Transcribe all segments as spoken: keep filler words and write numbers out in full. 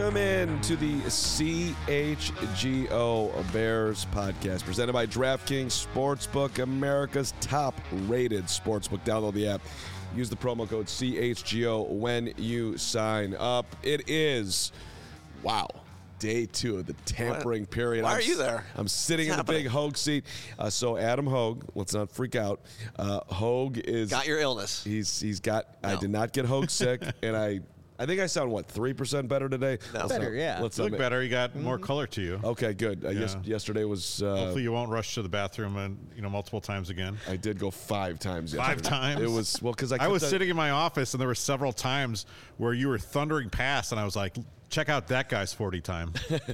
Welcome in to the C H G O Bears podcast, presented by DraftKings Sportsbook, America's top-rated sportsbook. Download the app. Use the promo code C H G O when you sign up. It is, wow, day two of the tampering what? period. Why I'm, are you there? I'm sitting What's in the happening? big Hogue seat. Uh, so Adam Hogue, let's not freak out. Uh, Hogue is... Got your illness. He's He's got... No. I did not get Hogue sick, and I... I think I sound, what, three percent better today? No. Let's Better, not- yeah. Let's You not look ma- better. You got more color to you. Okay, good. Uh, yes, Yeah. yesterday was... Uh, Hopefully you won't rush to the bathroom and you know multiple times again. I did go five times Five yesterday. times? It was... Well, because I, I was kept- sitting in my office and there were several times where you were thundering past and I was like, check out that guy's forty time.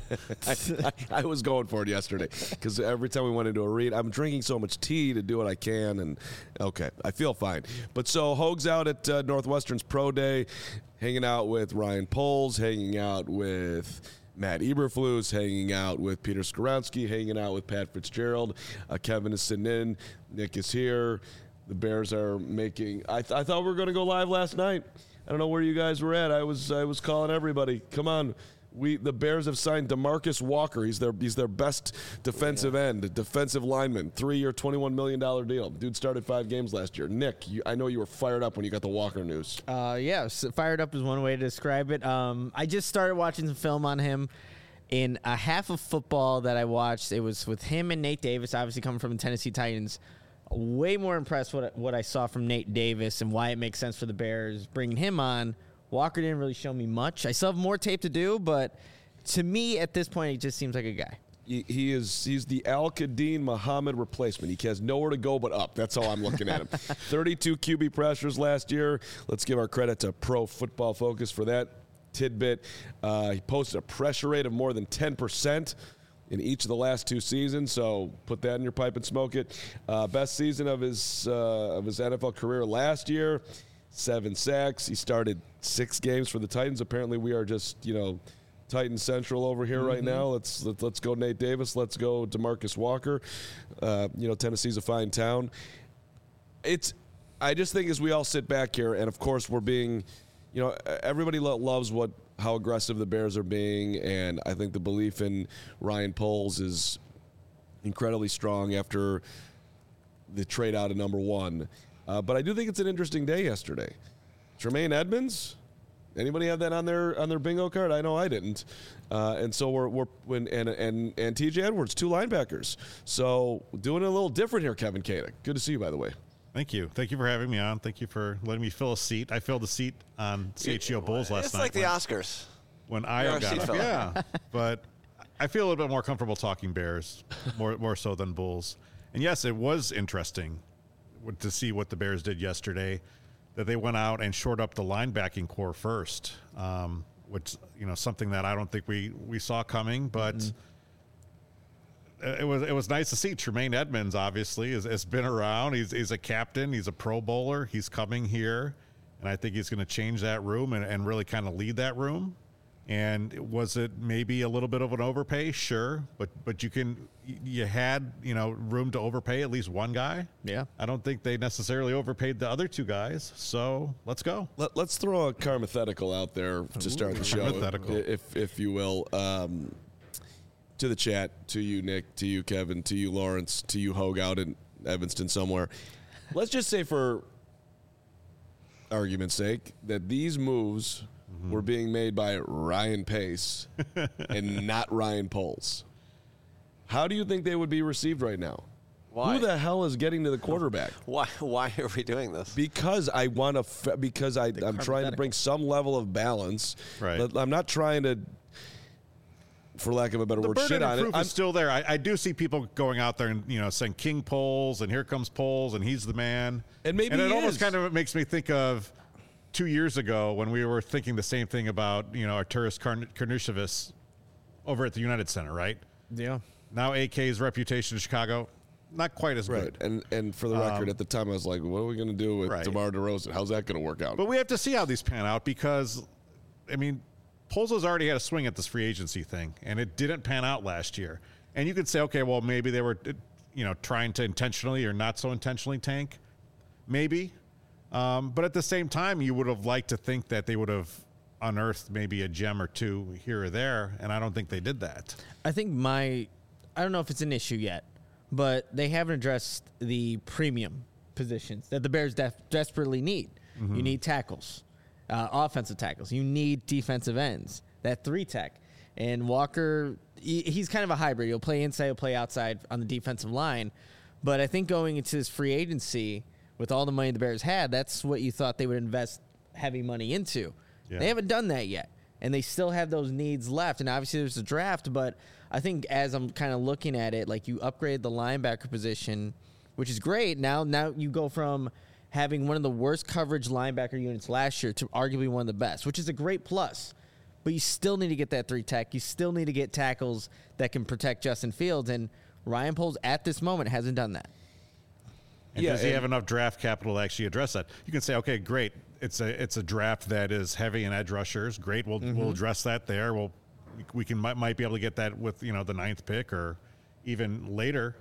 I, I, I was going for it yesterday because every time we went into a read, I'm drinking so much tea to do what I can, and okay, I feel fine. But so Hogue's out at uh, Northwestern's Pro Day, hanging out with Ryan Poles, hanging out with Matt Eberflus, hanging out with Peter Skoronsky, hanging out with Pat Fitzgerald. Uh, Kevin is sitting in. Nick is here. The Bears are making. I, th- I thought we were going to go live last night. I don't know where you guys were at. I was I was calling everybody. Come on. We the Bears have signed DeMarcus Walker. He's their he's their best defensive end, defensive lineman. Three-year, twenty-one million dollars deal. Dude started five games last year. Nick, you, I know you were fired up when you got the Walker news. Uh, yeah, so fired up is one way to describe it. Um, I just started watching some film on him. In a half of football that I watched, it was with him and Nate Davis, obviously coming from the Tennessee Titans. Way more impressed with what I saw from Nate Davis and why it makes sense for the Bears bringing him on. Walker didn't really show me much. I still have more tape to do, but to me at this point, he just seems like a guy. He, he is he's the Al-Qadim Muhammad replacement. He has nowhere to go but up. That's how I'm looking at him. thirty-two Q B pressures last year. Let's give our credit to Pro Football Focus for that tidbit. Uh, he posted a pressure rate of more than ten percent in each of the last two seasons, so put that in your pipe and smoke it. Uh, best season of his uh, of his N F L career last year, seven sacks. He started six games for the Titans. Apparently, we are just you know Titan Central over here mm-hmm. right now. Let's let, let's go Nate Davis. Let's go DeMarcus Walker. Uh, you know Tennessee's a fine town. It's I just think as we all sit back here, and of course we're being, you know, everybody lo- loves what. how aggressive the Bears are being, and I think the belief in Ryan Poles is incredibly strong after the trade out of number one. Uh, but I do think it's an interesting day yesterday. Tremaine Edmonds, anybody have that on their on their bingo card? I know I didn't. Uh, and so we're we're when and and and T J Edwards, two linebackers. So doing it a little different here, Kevin Koenig. Good to see you, by the way. Thank you. Thank you for having me on. Thank you for letting me fill a seat. I filled a seat on C H G O Bulls last it's night. like the when, Oscars. When You're I a got seat up. filler. Yeah. But I feel a little bit more comfortable talking Bears, more more so than Bulls. And yes, it was interesting to see what the Bears did yesterday, that they went out and shored up the linebacking core first, um, which, you know, something that I don't think we, we saw coming, but mm-hmm. It was it was nice to see. Tremaine Edmonds, obviously, has, has been around. He's he's a captain. He's a Pro Bowler. He's coming here, and I think he's going to change that room and, and really kind of lead that room. And was it maybe a little bit of an overpay? Sure, but but you can you had you know room to overpay at least one guy. Yeah, I don't think they necessarily overpaid the other two guys. So let's go. Let, let's throw a carmathetical out there to start the show, Carmathetical. if if you will. Um, To the chat, to you, Nick, to you, Kevin, to you, Lawrence, to you, Hogue out in Evanston somewhere. Let's just say, for argument's sake, that these moves mm-hmm. were being made by Ryan Pace and not Ryan Poles. How do you think they would be received right now? Why? Who the hell is getting to the quarterback? Why? Why are we doing this? Because I want to. F- because I, I'm trying to bring some level of balance. Right. I'm not trying to, for lack of a better The word, burden shit of on proof it. I'm, is still there. I, I do see people going out there and you know saying King Poles and here comes Poles and he's the man. And maybe and it he almost is. kind of makes me think of two years ago when we were thinking the same thing about you know Arturas Karn- Karnushevich over at the United Center, right? Yeah. Now A K's reputation in Chicago, not quite as right. good. And and for the record, Um, at the time, I was like, what are we going to do with right. DeMar DeRozan? How's that going to work out? But we have to see how these pan out because, I mean, Poles has already had a swing at this free agency thing, and it didn't pan out last year. And you could say, okay, well, maybe they were, you know, trying to intentionally or not so intentionally tank. Maybe. Um, but at the same time, you would have liked to think that they would have unearth maybe a gem or two here or there, and I don't think they did that. I think my, I don't know if it's an issue yet, but they haven't addressed the premium positions that the Bears def- desperately need. Mm-hmm. You need tackles, uh, offensive tackles. You need defensive ends, that three tech. And Walker, he, he's kind of a hybrid. He'll play inside, he'll play outside on the defensive line. But I think going into this free agency with all the money the Bears had, that's what you thought they would invest heavy money into. Yeah. They haven't done that yet. And they still have those needs left. And obviously there's a draft, but I think as I'm kind of looking at it, like you upgrade the linebacker position, which is great. Now, now you go from having one of the worst coverage linebacker units last year to arguably one of the best, which is a great plus. But you still need to get that three tech. You still need to get tackles that can protect Justin Fields. And Ryan Poles at this moment hasn't done that. And yeah, does he have enough draft capital to actually address that? You can say, okay, great. It's a it's a draft that is heavy in edge rushers. Great, we'll mm-hmm. we'll address that there. We'll we can might, might be able to get that with you know the ninth pick or even later.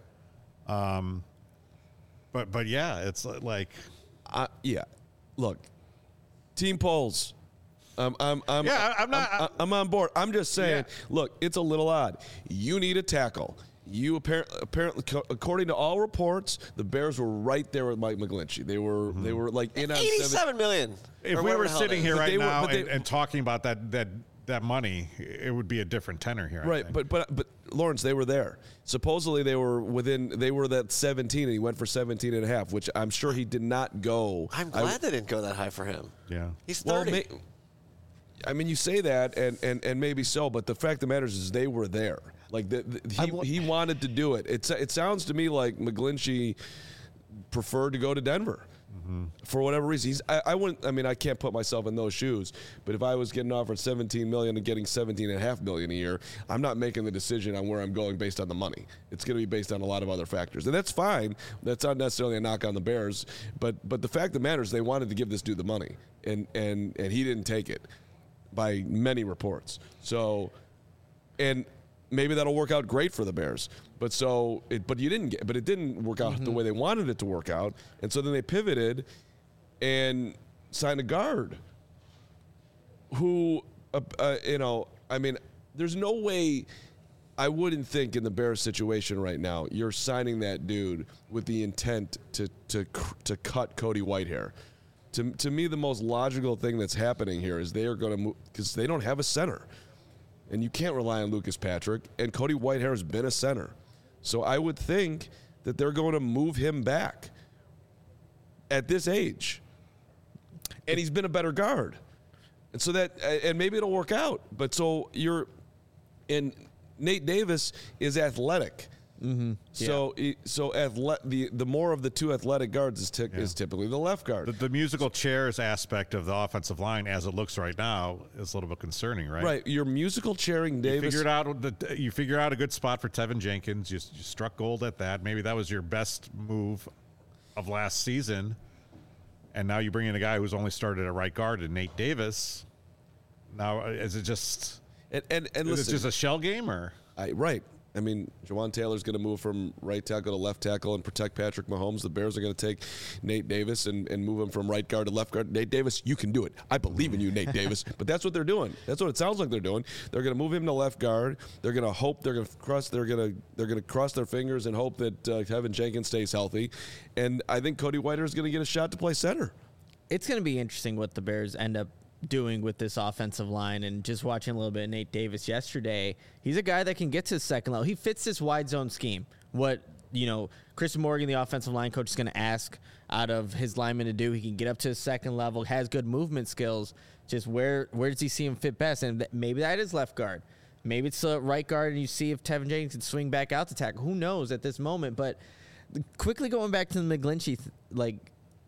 Um, but but yeah, it's like uh, yeah. Look, Team Poles. Um, I'm, I'm, yeah, I'm not. I'm, I'm on board. I'm just saying. Yeah. Look, it's a little odd. You need a tackle. You apparently, apparently, according to all reports, the Bears were right there with Mike McGlinchey. They were, mm-hmm. they were like in on eighty-seven million. If we were sitting here right were, now they, and, and talking about that that that money, it would be a different tenor here. Right, but but but Lawrence, they were there. Supposedly they were within. They were that seventeen, and he went for seventeen and a half, which I'm sure he did not go. I'm glad I, they didn't go that high for him. Yeah, he's thirty. Well, may, I mean, you say that, and, and, and maybe so, but the fact of the matter is, is they were there. Like the, the, he he wanted to do it. It it sounds to me like McGlinchey preferred to go to Denver mm-hmm. for whatever reason. He's I, I wouldn't. I mean, I can't put myself in those shoes. But if I was getting offered seventeen million and getting seventeen and a half million a year, I'm not making the decision on where I'm going based on the money. It's going to be based on a lot of other factors, and that's fine. That's not necessarily a knock on the Bears. But but the fact of the matter is, they wanted to give this dude the money, and and and he didn't take it. By many reports. So, and maybe that'll work out great for the Bears. But so, it, but you didn't get, but it didn't work out mm-hmm. the way they wanted it to work out. And so then they pivoted and signed a guard who, uh, uh, you know, I mean, there's no way I wouldn't think in the Bears situation right now, you're signing that dude with the intent to, to, to cut Cody Whitehair. To, to me, the most logical thing that's happening here is they are going to move because they don't have a center. And you can't rely on Lucas Patrick. And Cody Whitehair has been a center. So I would think that they're going to move him back at this age. And he's been a better guard. And so that, and maybe it'll work out. But so you're, and Nate Davis is athletic. Mm-hmm. So, yeah. so athle- the the more of the two athletic guards is, t- yeah. is typically the left guard. The, the musical chairs aspect of the offensive line, as it looks right now, is a little bit concerning, right? Right. You're musical chairing Davis. You figured out the you figure out a good spot for Tevin Jenkins. You, you struck gold at that. Maybe that was your best move of last season, and now you bring in a guy who's only started at right guard, and Nate Davis. Now, is it just and and, and is listen, it just a shell game or I, right? I mean, Jawan Taylor's going to move from right tackle to left tackle and protect Patrick Mahomes. The Bears are going to take Nate Davis and, and move him from right guard to left guard. Nate Davis, you can do it. I believe in you, Nate Davis. But that's what they're doing. That's what it sounds like they're doing. They're going to move him to left guard. They're going to hope they're going to cross. They're going to they're going to cross their fingers and hope that uh, Tevin Jenkins stays healthy. And I think Cody Whitehair is going to get a shot to play center. It's going to be interesting what the Bears end up doing with this offensive line, and just watching a little bit of Nate Davis yesterday. He's a guy that can get to the second level. He fits this wide zone scheme. What, you know, Chris Morgan, the offensive line coach, is going to ask out of his linemen to do. He can get up to the second level, has good movement skills. Just where where does he see him fit best? And th- maybe that is left guard. Maybe it's uh, right guard, and you see if Tevin Jenkins can swing back out to tackle. Who knows at this moment? But quickly going back to the McGlinchey, th- like,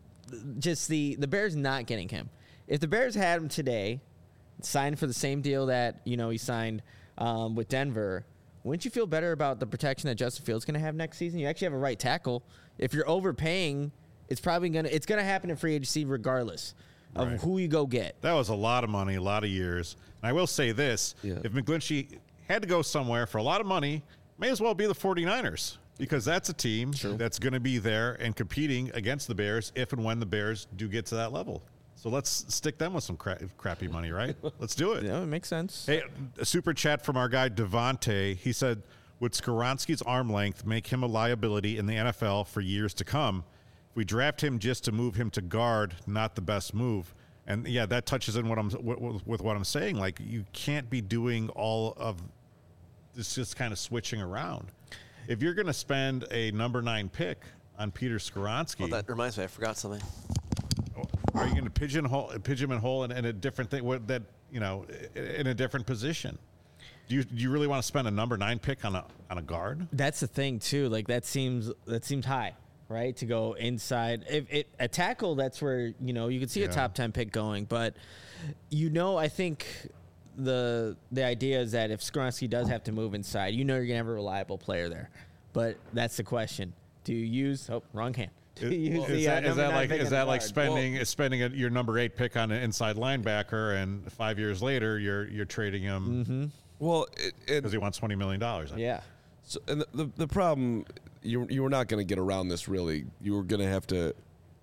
just the, the Bears not getting him. If the Bears had him today, signed for the same deal that, you know, he signed um, with Denver, wouldn't you feel better about the protection that Justin Fields is going to have next season? You actually have a right tackle. If you're overpaying, it's probably going to it's going to happen in free agency regardless of right. who you go get. That was a lot of money, a lot of years. And I will say this, yeah. if McGlinchey had to go somewhere for a lot of money, may as well be the 49ers, because that's a team True. that's going to be there and competing against the Bears if and when the Bears do get to that level. So let's stick them with some cra- crappy money, right? Let's do it. Yeah, it makes sense. Hey, a super chat from our guy Devontae. He said, would Skoronski's arm length make him a liability in the N F L for years to come? If we draft him just to move him to guard, not the best move. And yeah, that touches in what I'm with, with what I'm saying. Like, you can't be doing all of this, just kind of switching around. If you're going to spend a number nine pick on Peter Skoronski, Well, that reminds me, I forgot something. are you going to pigeonhole pigeonhole in, in a different thing? What that you know, in a different position? Do you do you really want to spend a number nine pick on a on a guard? That's the thing too. Like that seems that seems high, right? To go inside. If it a tackle, that's where you know you could see Yeah. a top ten pick going. But you know, I think the the idea is that if Skoronski does have to move inside, you know you're gonna have a reliable player there. But that's the question: do you use? Oh, wrong hand. Do you use Is the, uh, that, is number that nine like pick is on the that like guard? spending is spending a, your number eight pick on an inside linebacker, and five years later you're you're trading him Mm-hmm. Well, it, it, because he wants twenty million dollars? Yeah. So, and the, the, the problem, you, you were not going to get around this, really. You were going to have to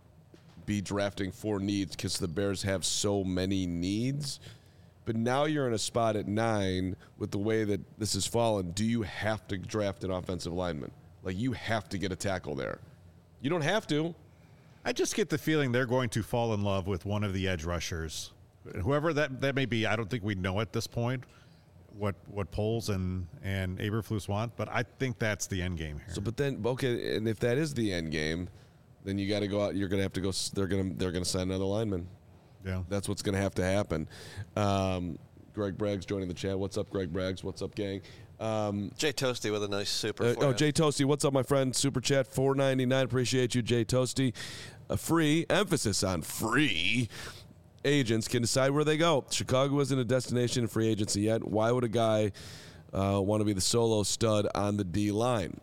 be drafting for needs because the Bears have so many needs. But now you're in a spot at nine with the way that this has fallen. Do you have to draft an offensive lineman? Like, you have to get a tackle there. You don't have to. I just get the feeling they're going to fall in love with one of the edge rushers, whoever that, that may be. I don't think we know at this point what what Poles and and Eberflus want, but I think that's the end game here. So, but then, okay, and if that is the end game, then you got to go out. You're going to have to go. s- They're going to they're going to sign another lineman. Yeah. That's what's going to have to happen. Um, Greg Braggs joining the chat. What's up, Greg Braggs? What's up, gang? Um, Jay Toasty with a nice super. uh, for oh, you. Jay Toasty, what's up, my friend? Super chat four ninety-nine. Appreciate you, Jay Toasty. A free emphasis on free agents can decide where they go. Chicago isn't a destination in free agency yet. Why would a guy uh, want to be the solo stud on the D line?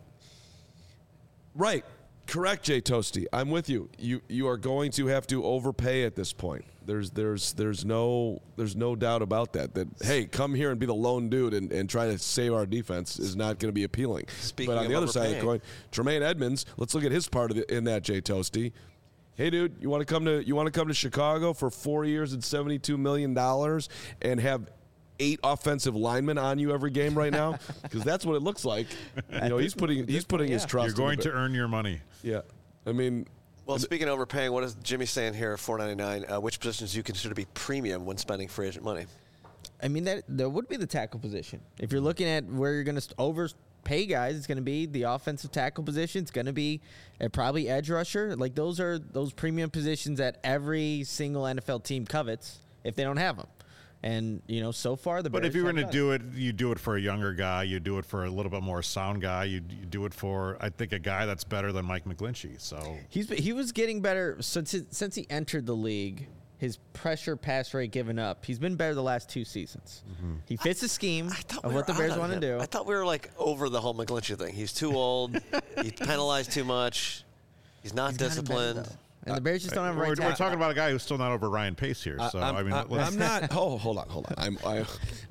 Right. Correct, Jay Toasty. I'm with you. You you are going to have to overpay at this point. There's there's there's no there's no doubt about that. That hey, come here and be the lone dude and, and try to save our defense is not going to be appealing. Speaking but on of the other side of the overpaying. coin, Tremaine Edmonds. Let's look at his part of the, in that, Jay Toasty. Hey, dude, you want to come to you want to come to Chicago for four years and seventy-two million dollars and have eight offensive linemen on you every game right now? Because that's what it looks like. You know, he's putting he's putting his yeah. trust. You're going in the, to earn your money. Yeah, I mean, Well, speaking of overpaying, what is Jimmy saying here? Four ninety nine. Uh, which positions do you consider to be premium when spending free agent money? I mean, that there would be the tackle position. If you're looking at where you're going to overpay guys, it's going to be the offensive tackle position. It's going to be uh, probably edge rusher. Like those are those premium positions that every single N F L team covets if they don't have them. And you know, so far the But Bears if you were have going to done. do it, you do it for a younger guy. You do it for a little bit more sound guy. You, you do it for, I think, a guy that's better than Mike McGlinchey. So He's he was getting better since since he entered the league. His pressure pass rate given up. He's been better the last two seasons. Mm-hmm. He fits the scheme I thought of we what the were Bears out on want to him. do. I thought we were like over the whole McGlinchey thing. He's too old. He penalized too much. He's not He's gotten disciplined. better, though. And the Bears just don't have a we're, right we're tackle. talking about a guy who's still not over Ryan Pace here. So I'm, I mean, I'm, let's- I'm not. Oh, hold on, hold on. I'm. I,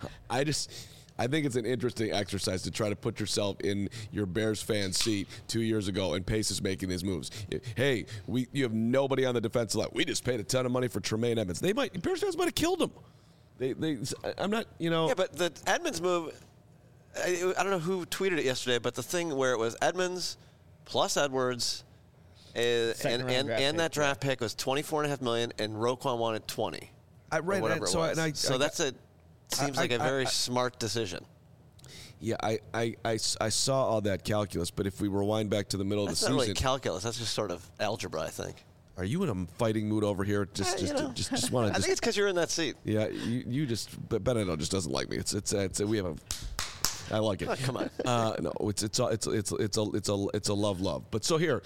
I just. I think it's an interesting exercise to try to put yourself in your Bears fan seat two years ago, and Pace is making these moves. Hey, we you have nobody on the defensive line. We just paid a ton of money for Tremaine Edmonds. They might Bears fans might have killed him. They, they. I'm not. You know. Yeah, but the Edmonds move, I, I don't know who tweeted it yesterday, but the thing where it was Edmonds plus Edwards, uh, Second and round and, draft and pick, that draft pick was twenty-four and a half million, and Roquan wanted twenty. I or read whatever that. it So, was. and I, so I, that's a seems I- like a I- very I- smart decision. Yeah, I, I, I, I saw all that calculus, but if we rewind back to the middle That's of the not season, really calculus. That's just sort of algebra, I think. are you in a fighting mood over here? Just, Eh, just, you know. just, just want I to think just. it's because you're in that seat. Yeah, you, you just. But Benedetto just doesn't like me. It's, it's, it's. We have a. I like it. Oh, come on. Uh, no, it's, it's, a- it's, it's, it's a, it's a, it's a love, love. But so here,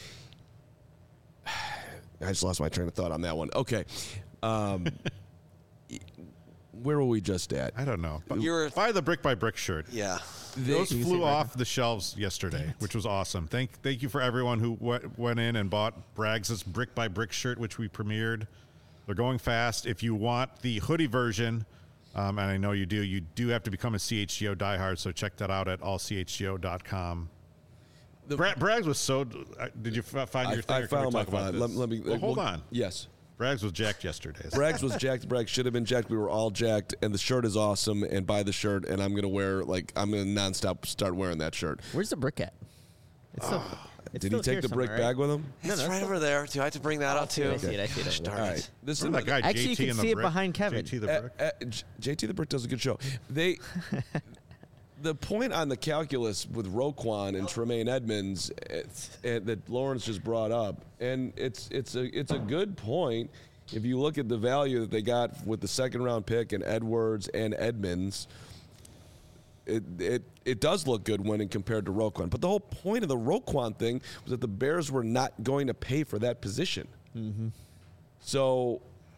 I just lost my train of thought on that one. Okay, um, where were we just at? I don't know. But You were- buy the brick by brick shirt. Yeah. Those You can see flew it right off the shelves yesterday, which was awesome. Thank thank you for everyone who went, went in and bought Braggs' brick by brick shirt, which we premiered. They're going fast. If you want the hoodie version, um, and I know you do, you do have to become a C H G O diehard, so check that out at all c h g o dot com. The- Bra- Braggs was so. Uh, did you f- find I, your thing? I or can we found my talk about thought. this? Let, let me. Well, hold well, on. Yes. Braggs was jacked yesterday. Braggs was jacked. Braggs should have been jacked. We were all jacked, and the shirt is awesome. And buy the shirt, and I'm gonna wear like I'm gonna nonstop start wearing that shirt. Where's the brick at? It's still, it's Did still he take here the brick somewhere, bag right? with him? It's right over there. Do I have to bring that out too? I see it. I see it. I see it. Darn All it. right. This is Remember that guy Actually, J you T can in the see it brick? behind Kevin. J T the Uh, brick. uh, J- JT the Brick does a good show. They, the point on the calculus with Roquan and Tremaine Edmonds uh, uh, that Lawrence just brought up, and it's it's a it's a good point. If you look at the value that they got with the second round pick and Edwards and Edmonds, it it it does look good when compared to Roquan. But the whole point of the Roquan thing was that the Bears were not going to pay for that position. Mm-hmm. So,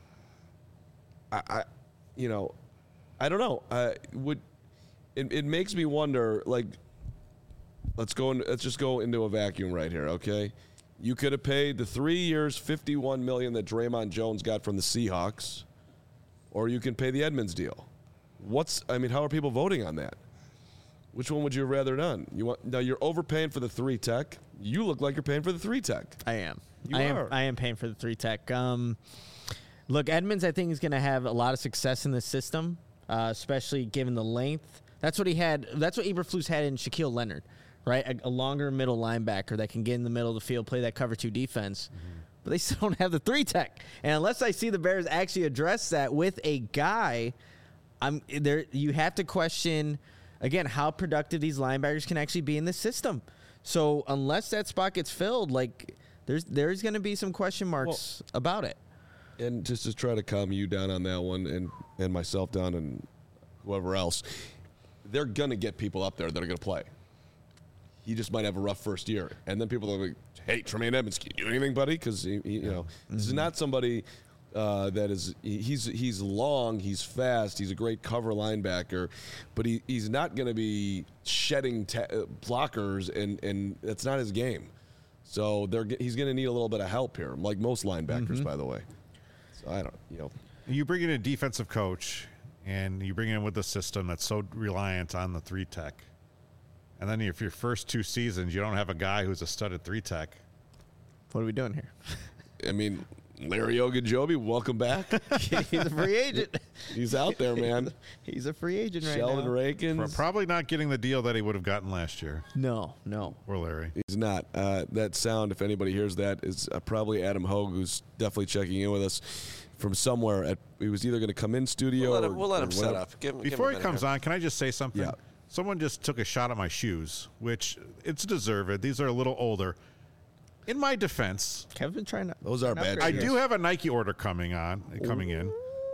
I, I, you know, I don't know. I would. It, it makes me wonder. Like, let's go. In, let's just go into a vacuum right here. Okay, you could have paid the three years, fifty-one million that Draymond Jones got from the Seahawks, or you can pay the Edmonds deal. What's? I mean, how are people voting on that? Which one would you have rather done? You want now? You're overpaying for the three tech. You look like you're paying for the three tech. I am. You I are. am. I am paying for the three tech. Um, look, Edmonds, I think is going to have a lot of success in this system, uh, especially given the length. That's what he had. That's what Eberflus had in Shaquille Leonard, right? A, a longer middle linebacker that can get in the middle of the field, play that cover two defense. Mm-hmm. But they still don't have the three tech. And unless I see the Bears actually address that with a guy, I'm there. You have to question again how productive these linebackers can actually be in this system. So unless that spot gets filled, like there's there's going to be some question marks well, about it. And just to try to calm you down on that one, and and myself down, and whoever else, they're going to get people up there that are going to play. He just might have a rough first year, and then people are like, "Hey, Tremaine Edmonds, can you do anything, buddy?" Because he, he, you know, mm-hmm. this is not somebody. Uh, that is, he's he's long, he's fast, he's a great cover linebacker, but he, he's not going to be shedding ta- blockers, and, and that's not his game. So they're he's going to need a little bit of help here, like most linebackers, mm-hmm. by the way. So I don't, you know. You bring in a defensive coach, and you bring in with a system that's so reliant on the three tech, and then if your first two seasons you don't have a guy who's a studded three tech. What are we doing here? I mean. Larry Ogunjobi, welcome back. He's a free agent. He's out there, man. He's a free agent right Sheldon now. Sheldon Rankins. Probably not getting the deal that he would have gotten last year. No, no. Or Larry. He's not. Uh, that sound, if anybody hears that, is uh, probably Adam Hogue, who's definitely checking in with us from somewhere. At, he was either going to come in studio We'll let him, or, we'll let him or set whatever. up. Give him, Before give him he comes here. on, can I just say something? Yeah. Someone just took a shot at my shoes, which it's deserved. These are a little older. In my defense, Kevin's been trying to. Those are bad I shoes. do have a Nike order coming on, coming in.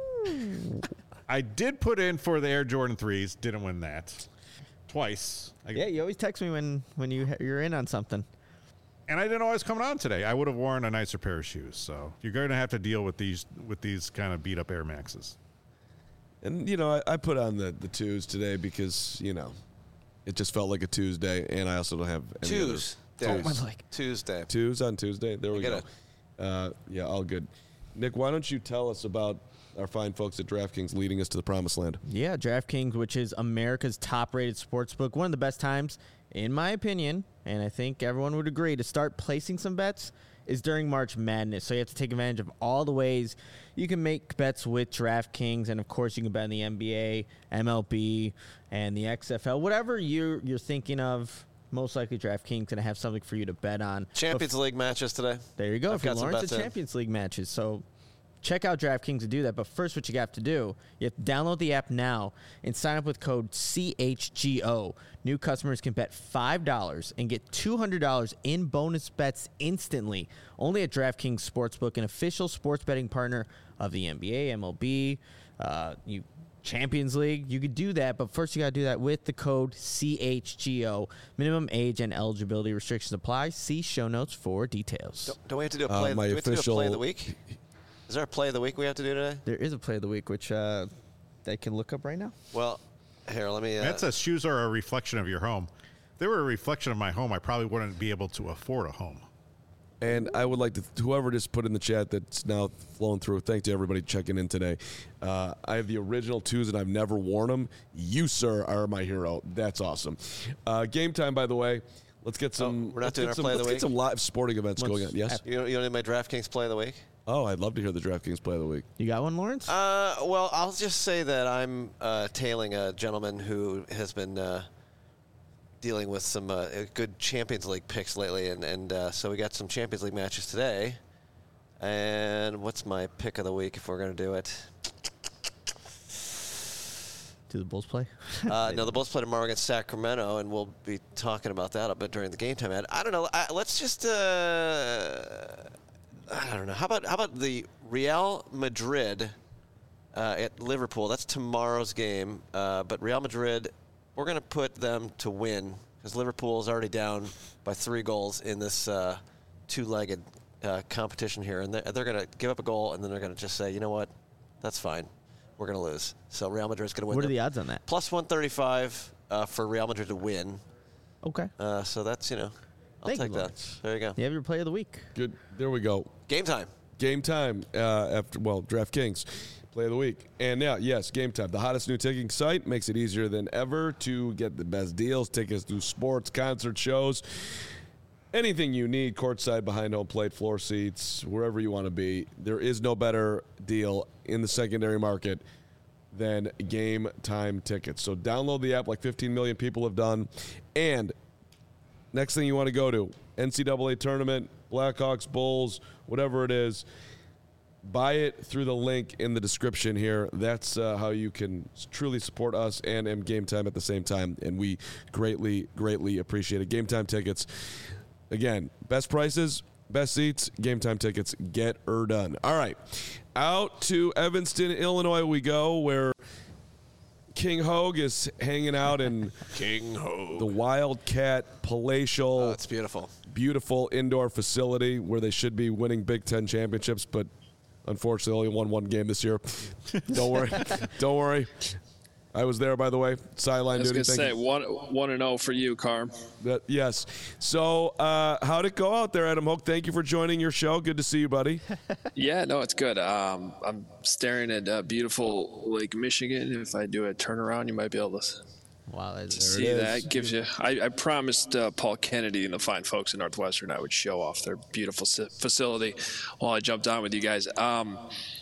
I did put in for the Air Jordan threes. Didn't win that. Twice. I, Yeah, you always text me when, when you, you're in on something. And I didn't know I was coming on today. I would have worn a nicer pair of shoes. So you're going to have to deal with these with these kind of beat up Air Maxes. And, you know, I, I put on the, the twos today because, you know, it just felt like a Tuesday, and I also don't have any Twos. other- There's my leg. Tuesday. Twos on Tuesday. There we I get go. it. Uh, yeah, all good. Nick, why don't you tell us about our fine folks at DraftKings leading us to the promised land? Yeah, DraftKings, which is America's top-rated sportsbook, one of the best times, in my opinion, and I think everyone would agree, to start placing some bets is during March Madness. So you have to take advantage of all the ways you can make bets with DraftKings, and of course you can bet in the N B A, M L B, and the X F L, whatever you're you're thinking of. Most likely DraftKings going to have something for you to bet on. Champions Bef- League matches today. There you go. I've if you got some Lawrence, bets the in. Champions League matches. So check out DraftKings to do that. But first, what you have to do, you have to download the app now and sign up with code C H G O. New customers can bet five dollars and get two hundred dollars in bonus bets instantly. Only at DraftKings Sportsbook, an official sports betting partner of the N B A, M L B, uh, you Champions League. You could do that, but first you got to do that with the code C H G O. Minimum age and eligibility restrictions apply. See show notes for details. Don't, don't we have to do a Uh, play? my do we have to do a official- play of the week? Is there a play of the week we have to do today? There is a play of the week, which uh, they can look up right now. Well, here, let me. Uh, That says shoes are a reflection of your home. If they were a reflection of my home, I probably wouldn't be able to afford a home. And I would like to, whoever just put in the chat that's now flowing through, thanks to everybody checking in today. Uh, I have the original twos and I've never worn them. You, sir, are my hero. That's awesome. Uh, game time, by the way. Let's get some. Oh, we're not let's doing get our some, play of let's the get some live sporting events Let's- going on. Yes? you, don't, you don't need my DraftKings play of the week? Oh, I'd love to hear the DraftKings play of the week. You got one, Lawrence? Uh, well, I'll just say that I'm uh, tailing a gentleman who has been uh, dealing with some uh, good Champions League picks lately, and, and uh, so we got some Champions League matches today. And what's my pick of the week if we're going to do it? Do the Bulls play? uh, no, the Bulls play tomorrow against Sacramento, and we'll be talking about that a bit during the game time. Ad. I don't know. I, let's just. Uh, I don't know. How about how about the Real Madrid uh, at Liverpool? That's tomorrow's game. Uh, but Real Madrid, we're going to put them to win because Liverpool is already down by three goals in this uh, two-legged uh, competition here, and they're, they're going to give up a goal, and then they're going to just say, you know what, that's fine. We're going to lose. So Real Madrid's going to win. What are the odds on that? Plus one thirty-five uh, for Real Madrid to win. Okay. Uh, so that's, you know, I'll Thank take you, that. Lawrence. There you go. You have your play of the week. Good. There we go. Game time. Game time uh, after, well, DraftKings play of the week. And now, yes, Game Time, the hottest new ticketing site, makes it easier than ever to get the best deals, tickets to sports, concert shows, anything you need, courtside, behind home plate, floor seats, wherever you want to be. There is no better deal in the secondary market than Game Time tickets. So download the app like fifteen million people have done. And next thing you want to go to, N C double A tournament, Blackhawks, Bulls, whatever it is, buy it through the link in the description here. That's uh, how you can truly support us and M Game Time at the same time, and we greatly, greatly appreciate it. Game Time tickets, again, best prices, best seats, Game Time tickets, get her done. All right, out to Evanston, Illinois we go, where King Hogue is hanging out in King Hogue, the Wildcat Palatial. Oh, it's beautiful. Beautiful indoor facility where they should be winning Big Ten championships, but unfortunately only won one game this year. Don't worry. Don't worry. I was there, by the way. Sideline I was duty. going to say, one, one and oh for you, Carm. That, yes. So uh, how'd it go out there, Adam Hoke? Thank you for joining your show. Good to see you, buddy. Yeah, no, it's good. Um, I'm staring at uh, beautiful Lake Michigan. If I do a turnaround, you might be able to Wow, that's see that. Gives you. I, I promised uh, Paul Kennedy and the fine folks in Northwestern I would show off their beautiful facility while I jumped on with you guys. Um,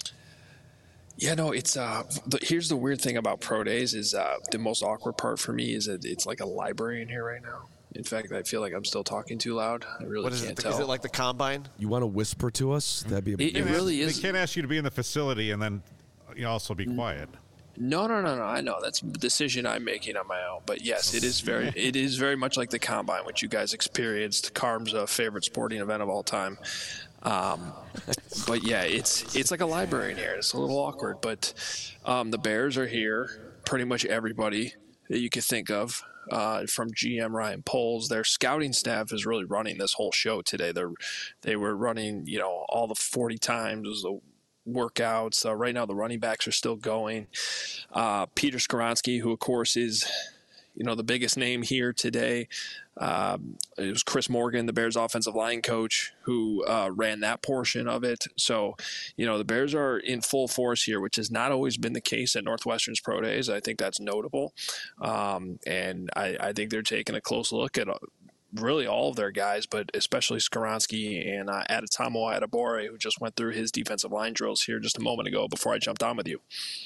Yeah, no, it's uh. The, here's the weird thing about pro days is uh, the most awkward part for me is that it's like a library in here right now. In fact, I feel like I'm still talking too loud. I really What is can't it? tell. Is it like the combine? You want to whisper to us? That'd be a It, it really is. They can't ask you to be in the facility and then you know, also be quiet. No, no, no, no. I know that's a decision I'm making on my own. But yes, it is very, it is very much like the combine, which you guys experienced. Carm's uh, favorite sporting event of all time. Um, but yeah, it's it's like a library in here. It's a little awkward, but um, the Bears are here. Pretty much everybody that you could think of, uh, from G M Ryan Poles. Their scouting staff is really running this whole show today. They're they were running, you know, all the forty times the workouts. Uh, right now, the running backs are still going. Uh, Peter Skoronski, who of course is, you know, the biggest name here today. Um, it was Chris Morgan, the Bears offensive line coach, who uh, ran that portion of it. So, you know, the Bears are in full force here, which has not always been the case at Northwestern's pro days. I think that's notable. Um, and I, I think they're taking a close look at uh, really all of their guys, but especially Skoronski and uh, Adetomo Adebore, who just went through his defensive line drills here just a moment ago before I jumped on with you.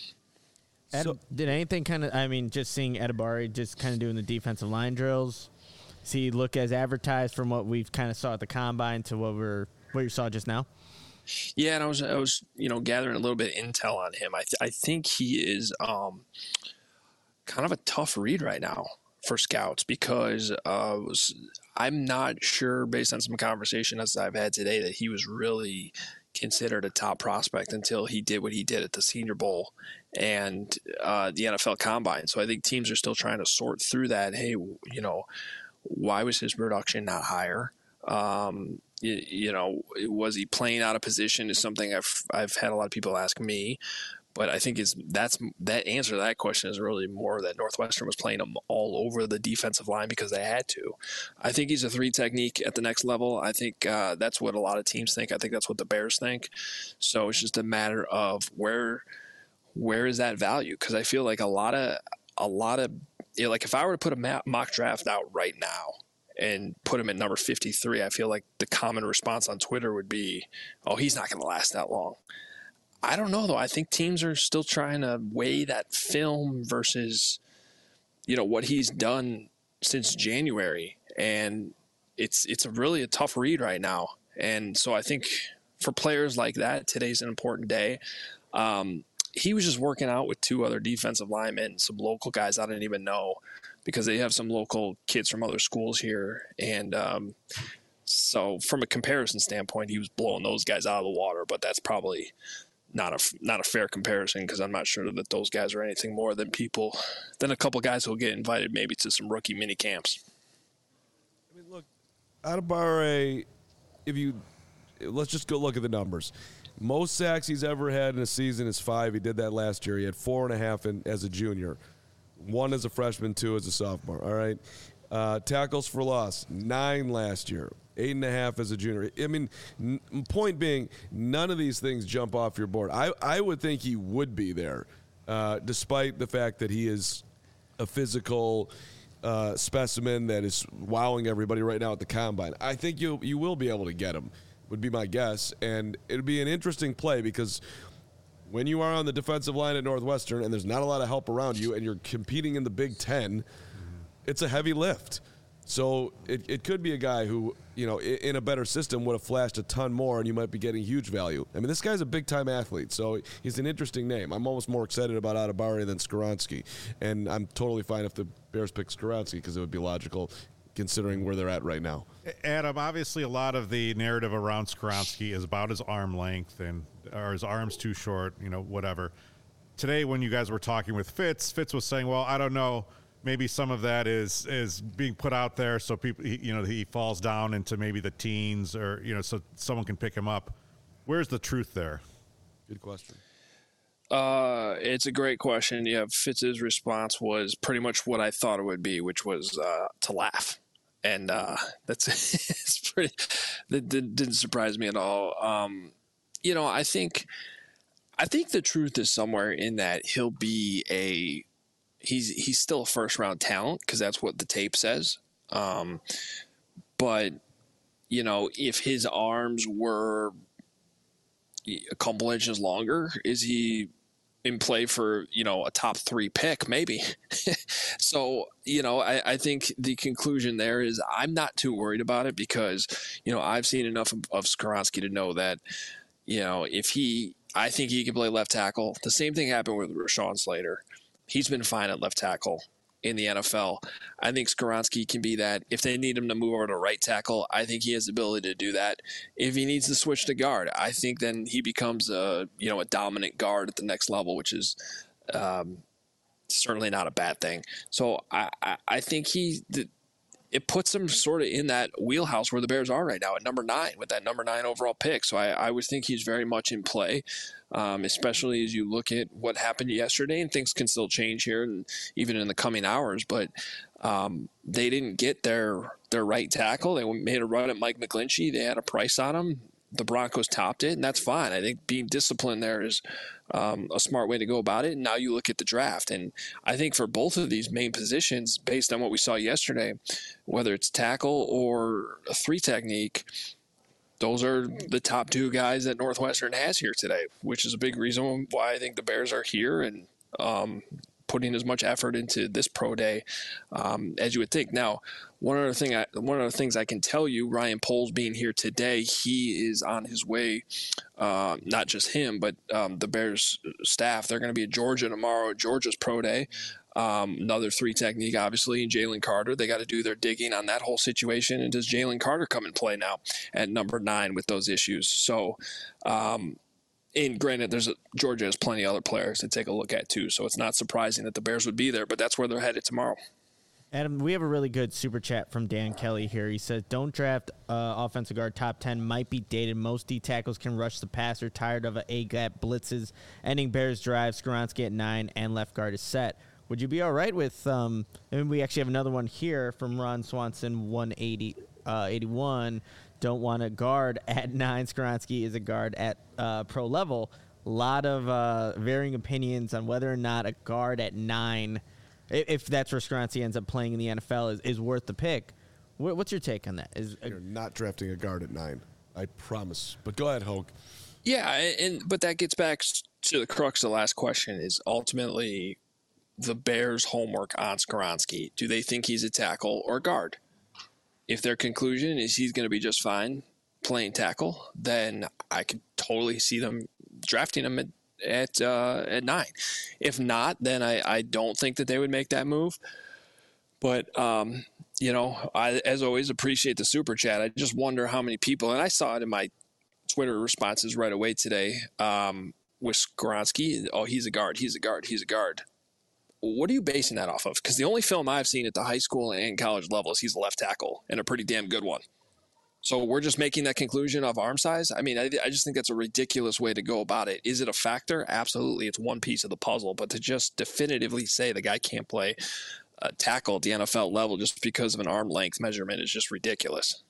Ed, So- did anything kind of, I mean, just seeing Adebari just kind of doing the defensive line drills, does he look as advertised from what we've kind of saw at the combine to what we're what you saw just now? Yeah, and I was I was you know gathering a little bit of intel on him. I th- I think he is um, kind of a tough read right now for scouts because uh, was, I'm not sure, based on some conversations I've had today, that he was really considered a top prospect until he did what he did at the Senior Bowl and uh, the N F L Combine. So I think teams are still trying to sort through that. Hey, you know, why was his production not higher? Um, you, you know, was he playing out of position is something I've I've had a lot of people ask me. But I think it's that's that answer to that question is really more that Northwestern was playing him all over the defensive line because they had to. I think he's a three technique at the next level. I think uh, that's what a lot of teams think. I think that's what the Bears think. So it's just a matter of where where is that value? Because I feel like a lot of a lot of you know, like if I were to put a mock draft out right now and put him at number fifty-three, I feel like the common response on Twitter would be, oh, he's not going to last that long. I don't know, though. I think teams are still trying to weigh that film versus, you know, what he's done since January. And it's it's a really a tough read right now. And so I think for players like that, today's an important day. Um, he was just working out with two other defensive linemen, some local guys I didn't even know, because they have some local kids from other schools here. And um, so from a comparison standpoint, he was blowing those guys out of the water, but that's probably not a, not a fair comparison, because I'm not sure that those guys are anything more than people, than a couple guys who will get invited maybe to some rookie mini camps. I mean, look, Adebawore, if you, let's just go look at the numbers. Most sacks he's ever had in a season is five. He did that last year. He had four and a half in, as a junior. One as a freshman, two as a sophomore. All right. Uh, tackles for loss, nine last year, eight and a half as a junior. I mean, n- point being, none of these things jump off your board. I, I would think he would be there, uh, despite the fact that he is a physical uh, specimen that is wowing everybody right now at the combine. I think you you will be able to get him, would be my guess. And it would be an interesting play, because when you are on the defensive line at Northwestern and there's not a lot of help around you and you're competing in the Big Ten, it's a heavy lift. So it, it could be a guy who, you know, in, in a better system would have flashed a ton more, and you might be getting huge value. I mean, this guy's a big-time athlete, so he's an interesting name. I'm almost more excited about Adebawore than Skoronski, and I'm totally fine if the Bears pick Skoronski, because it would be logical considering where they're at right now. Adam, obviously a lot of the narrative around Skoronski is about his arm length and are his arms too short, you know, whatever. Today when you guys were talking with Fitz, Fitz was saying, well, I don't know, maybe some of that is is being put out there so people, he, you know, he falls down into maybe the teens, or, you know, so someone can pick him up. Where's the truth there? Good question. Uh, it's a great question. Yeah, Fitz's response was pretty much what I thought it would be, which was uh, to laugh. And uh, that's it's pretty. That didn't surprise me at all. Um, you know, I think, I think the truth is somewhere in that he'll be a. He's he's still a first round talent, because that's what the tape says. Um, but you know, if his arms were a couple inches longer, is he in play for, you know, a top three pick? Maybe. So, you know, I, I think the conclusion there is I'm not too worried about it, because, you know, I've seen enough of, of Skoronski to know that, you know, if he, I think he can play left tackle. The same thing happened with Rashawn Slater. He's been fine at left tackle in the N F L. I think Skoronski can be that. If they need him to move over to right tackle, I think he has the ability to do that. If he needs to switch to guard, I think then he becomes a, you know, a dominant guard at the next level, which is um, certainly not a bad thing. So I, I, I think he the, it puts him sort of in that wheelhouse where the Bears are right now at number nine, with that number nine overall pick. So I, I would think he's very much in play. Um, especially as you look at what happened yesterday, and things can still change here and even in the coming hours. But um, they didn't get their their right tackle. They made a run at Mike McGlinchey. They had a price on him. The Broncos topped it, and that's fine. I think being disciplined there is um, a smart way to go about it. And now you look at the draft, and I think for both of these main positions, based on what we saw yesterday, whether it's tackle or a three technique, those are the top two guys that Northwestern has here today, which is a big reason why I think the Bears are here and um, putting as much effort into this pro day um, as you would think. Now, one other thing, I, one of the things I can tell you, Ryan Poles being here today, he is on his way. Uh, not just him, but um, the Bears staff. They're going to be at Georgia tomorrow. Georgia's pro day. Um, another three technique, obviously, and Jalen Carter. They got to do their digging on that whole situation. And does Jalen Carter come and play now at number nine with those issues? So, um, and granted, there's a, Georgia has plenty of other players to take a look at too. So it's not surprising that the Bears would be there, but that's where they're headed tomorrow. Adam, we have a really good super chat from Dan Kelly here. He says, don't draft uh, offensive guard top ten. Might be dated. Most D tackles can rush the passer. Tired of a A-gap blitzes. Ending Bears drive. Skoronski at nine, and left guard is set. Would you be all right with, um, and we actually have another one here from Ron Swanson, one eighty, uh, eighty-one. Don't want a guard at nine. Skoronski is a guard at uh, pro level. A lot of uh, varying opinions on whether or not a guard at nine, if that's where Skoronski ends up playing in the N F L, is, is worth the pick. What, what's your take on that? Is You're not drafting a guard at nine. I promise. But go ahead, Hogue. Yeah, and but that gets back to the crux of the last question is ultimately the Bears' homework on Skoronski. Do they think he's a tackle or guard? If their conclusion is he's going to be just fine playing tackle, then I could totally see them drafting him at at, uh, at nine. If not, then I, I don't think that they would make that move. But, um, you know, I, as always, appreciate the super chat. I just wonder how many people, and I saw it in my Twitter responses right away today um, with Skoronski. Oh, he's a guard, he's a guard, he's a guard. What are you basing that off of? Because the only film I've seen at the high school and college level is he's a left tackle, and a pretty damn good one. So we're just making that conclusion of arm size? I mean, I, I just think that's a ridiculous way to go about it. Is it a factor? Absolutely. It's one piece of the puzzle. But to just definitively say the guy can't play a tackle at the N F L level just because of an arm length measurement is just ridiculous.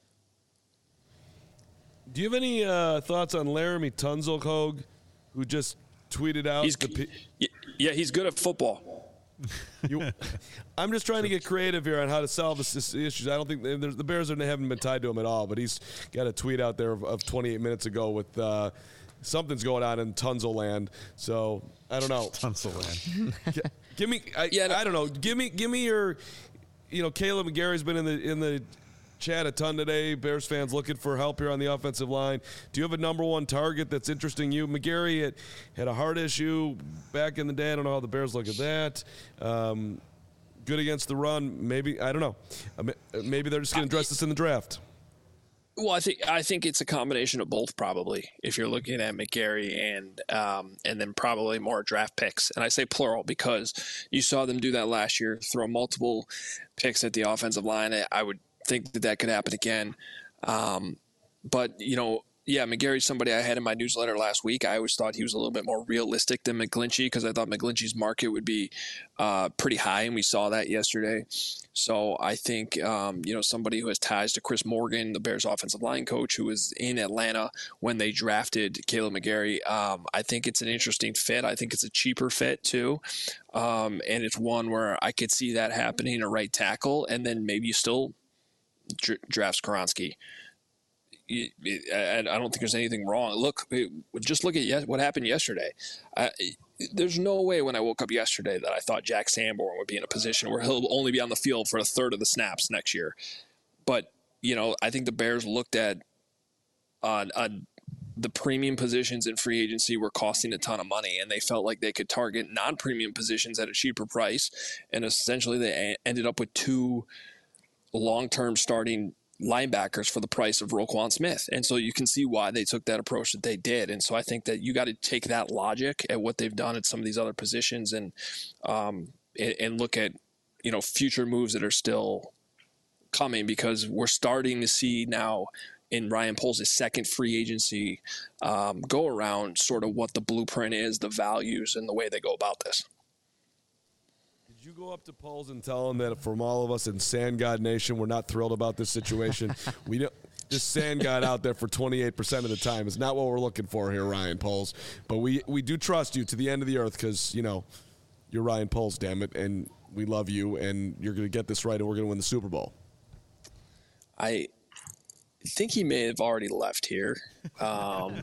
Do you have any uh, thoughts on Laramie Tunzel, Hogue, who just tweeted out? He's, the P- yeah, he's good at football. You, I'm just trying to get creative here on how to solve this, this issues. I don't think the Bears are, haven't been tied to him at all, but he's got a tweet out there of, of twenty-eight minutes ago with uh, something's going on in Tunzel land. So I don't know. Tunzel land. G- give me, I, Yeah, no. I don't know. Give me, give me your, you know, Caleb McGarry's been in the in the chat a ton today. Bears fans looking for help here on the offensive line. Do you have a number one target that's interesting you? McGarry had, had a heart issue back in the day. I don't know how the Bears look at that. Um, good against the run. Maybe, I don't know. Maybe they're just going to address this in the draft. Well, I think I think it's a combination of both, probably. If you're looking at McGarry and um, and then probably more draft picks, and I say plural because you saw them do that last year, throw multiple picks at the offensive line. I would think that that could happen again. Um, but, you know, yeah, McGarry's somebody I had in my newsletter last week. I always thought he was a little bit more realistic than McGlinchey because I thought McGlinchey's market would be uh, pretty high, and we saw that yesterday. So I think, um, you know, somebody who has ties to Chris Morgan, the Bears offensive line coach, who was in Atlanta when they drafted Caleb McGarry, um, I think it's an interesting fit. I think it's a cheaper fit, too. Um, and it's one where I could see that happening, a right tackle, and then maybe you still – draft Skoronski. I don't think there's anything wrong. Look, just look at what happened yesterday. I, there's no way when I woke up yesterday that I thought Jack Sanborn would be in a position where he'll only be on the field for a third of the snaps next year. But, you know, I think the Bears looked at uh, uh, the premium positions in free agency were costing a ton of money, and they felt like they could target non-premium positions at a cheaper price. And essentially they ended up with two long-term starting linebackers for the price of Roquan Smith. And so you can see why they took that approach that they did. And so I think that you got to take that logic at what they've done at some of these other positions and, um, and, and look at, you know, future moves that are still coming, because we're starting to see now in Ryan Poles' second free agency um, go around sort of what the blueprint is, the values, and the way they go about this. Did you go up to Poles and tell him that from all of us in Sand God Nation, we're not thrilled about this situation? we don't. This Sand God out there for twenty-eight percent of the time is not what we're looking for here, Ryan Poles. But we, we do trust you to the end of the earth because, you know, you're Ryan Poles, damn it, and we love you, and you're going to get this right, and we're going to win the Super Bowl. I think he may have already left here. Um,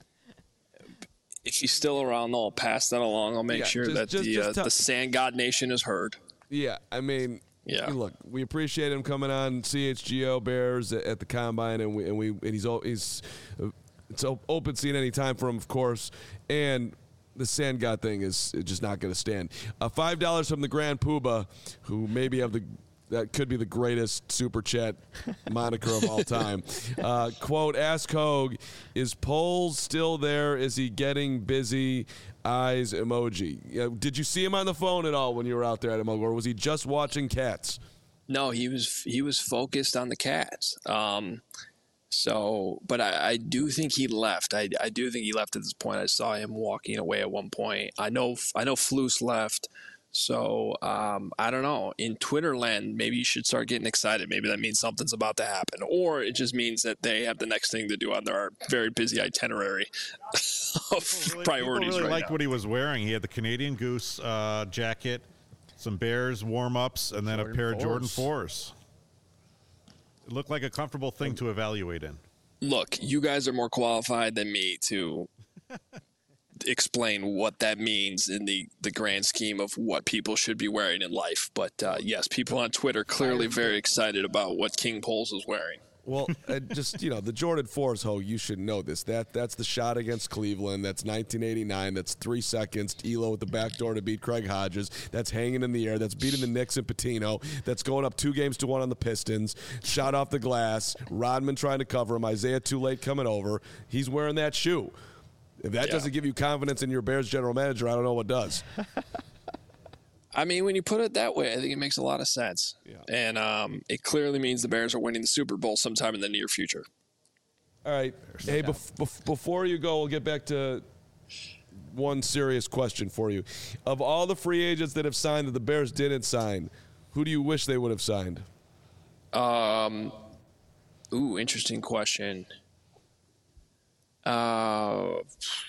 if he's still around, I'll pass that along. I'll make Yeah, sure just- that just- the just uh, tell- the Sand God Nation is heard. Yeah, I mean, Yeah. look, we appreciate him coming on C H G O Bears at, at the Combine, and we and we and he's o- he's uh, it's o- open seat any time for him, of course, and the Sand God thing is just not going to stand. Uh, Five dollars from the Grand Poobah, who maybe have the that could be the greatest super chat moniker of all time. Uh, quote, ask Hogue, is Poles still there? Is he getting busy? Eyes emoji. You know, did you see him on the phone at all when you were out there at him, or was he just watching cats? No, he was he was focused on the Cats. Um, so, but I, I do think he left. I, I do think he left at this point. I saw him walking away at one point. I know I know Flus left. So um, I don't know. In Twitter land, maybe you should start getting excited. Maybe that means something's about to happen, or it just means that they have the next thing to do on their very busy itinerary of Really, priorities. People really right liked now. what he was wearing. He had the Canadian Goose uh, jacket, some Bears warm-ups, and then Jordan a pair of Jordan fours. fours. It looked like a comfortable thing to evaluate in. Look, you guys are more qualified than me to explain what that means in the, the grand scheme of what people should be wearing in life. But uh, yes, people on Twitter clearly very excited about what King Poles is wearing. Well, uh, just, you know, the Jordan fours, Ho, you should know this. That That's the shot against Cleveland. That's nineteen eighty-nine. That's three seconds. Elo with the back door to beat Craig Hodges. That's hanging in the air. That's beating the Knicks and Patino. That's going up two games to one on the Pistons. Shot off the glass. Rodman trying to cover him. Isaiah too late coming over. He's wearing that shoe. If that yeah. doesn't give you confidence in your Bears general manager, I don't know what does. I mean, when you put it that way, I think it makes a lot of sense. Yeah. And um, it clearly means the Bears are winning the Super Bowl sometime in the near future. All right. Hey, bef- bef- before you go, we'll get back to one serious question for you. Of all the free agents that have signed that the Bears didn't sign, who do you wish they would have signed? Um, ooh, interesting question. Uh,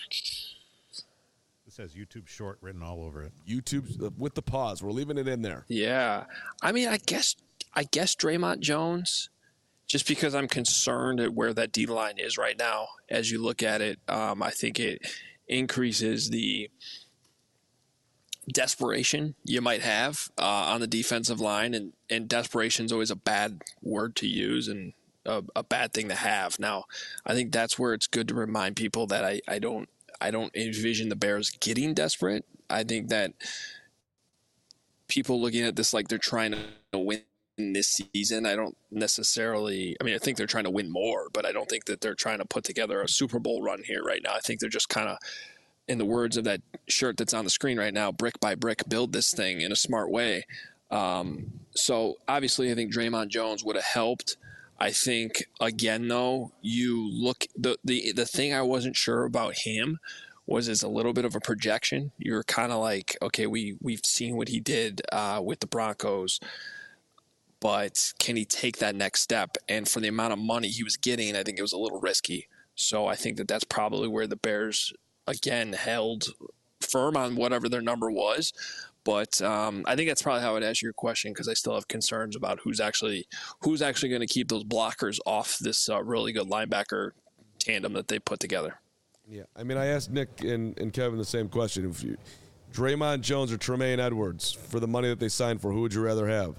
this has YouTube short written all over it. YouTube uh, with the pause. We're leaving it in there. Yeah. I mean, I guess I guess Draymond Jones, just because I'm concerned at where that D line is right now. As you look at it, um, I think it increases the desperation you might have uh, on the defensive line, and, and desperation is always a bad word to use and a, a bad thing to have. Now, I think that's where it's good to remind people that I, I don't I don't envision the Bears getting desperate. I think that people looking at this like they're trying to win this season, I don't necessarily – I mean, I think they're trying to win more, but I don't think that they're trying to put together a Super Bowl run here right now. I think they're just kind of, in the words of that shirt that's on the screen right now, brick by brick, build this thing in a smart way. Um, so, obviously, I think Draymond Jones would have helped. I think, again, though, you look the, – the, the thing I wasn't sure about him was is a little bit of a projection. You're kind of like, okay, we, we've seen what he did uh, with the Broncos, but can he take that next step? And for the amount of money he was getting, I think it was a little risky. So I think that that's probably where the Bears, again, held firm on whatever their number was. But um, I think that's probably how I'd answer your question, because I still have concerns about who's actually who's actually going to keep those blockers off this uh, really good linebacker tandem that they put together. Yeah, I mean, I asked Nick and, and Kevin the same question. If you, Draymond Jones or Tremaine Edwards, for the money that they signed for, who would you rather have?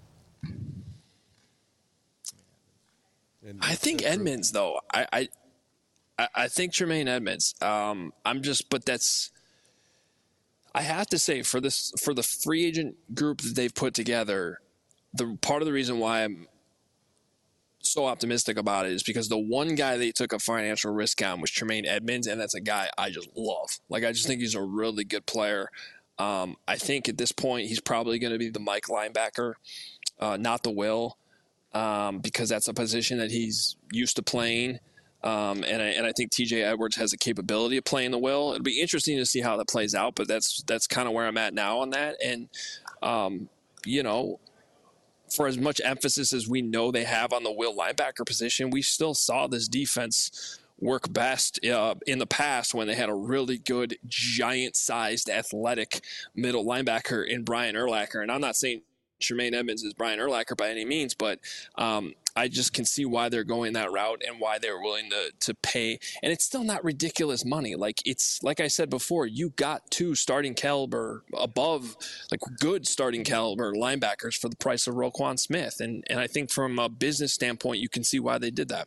And I think Edmonds, though. I, I I think Tremaine Edmonds. Um, I'm just, but that's. I have to say, for this for the free agent group that they've put together, the part of the reason why I'm so optimistic about it is because the one guy they took a financial risk on was Tremaine Edmonds, and that's a guy I just love. Like, I just think he's a really good player. Um, I think at this point he's probably going to be the Mike linebacker, uh, not the Will, um, because that's a position that he's used to playing. Um, and I, and I think T J Edwards has the capability of playing the Will. It'll be interesting to see how that plays out, but that's that's kind of where I'm at now on that. And, um, you know, for as much emphasis as we know they have on the Will linebacker position, we still saw this defense work best uh, in the past when they had a really good, giant-sized, athletic middle linebacker in Brian Urlacher. And I'm not saying Tremaine Edmonds is Brian Urlacher by any means, but um, I just can see why they're going that route and why they're willing to to pay. And it's still not ridiculous money. Like it's like I said before, you got two starting caliber above, like good starting caliber linebackers for the price of Roquan Smith. And and I think from a business standpoint, you can see why they did that.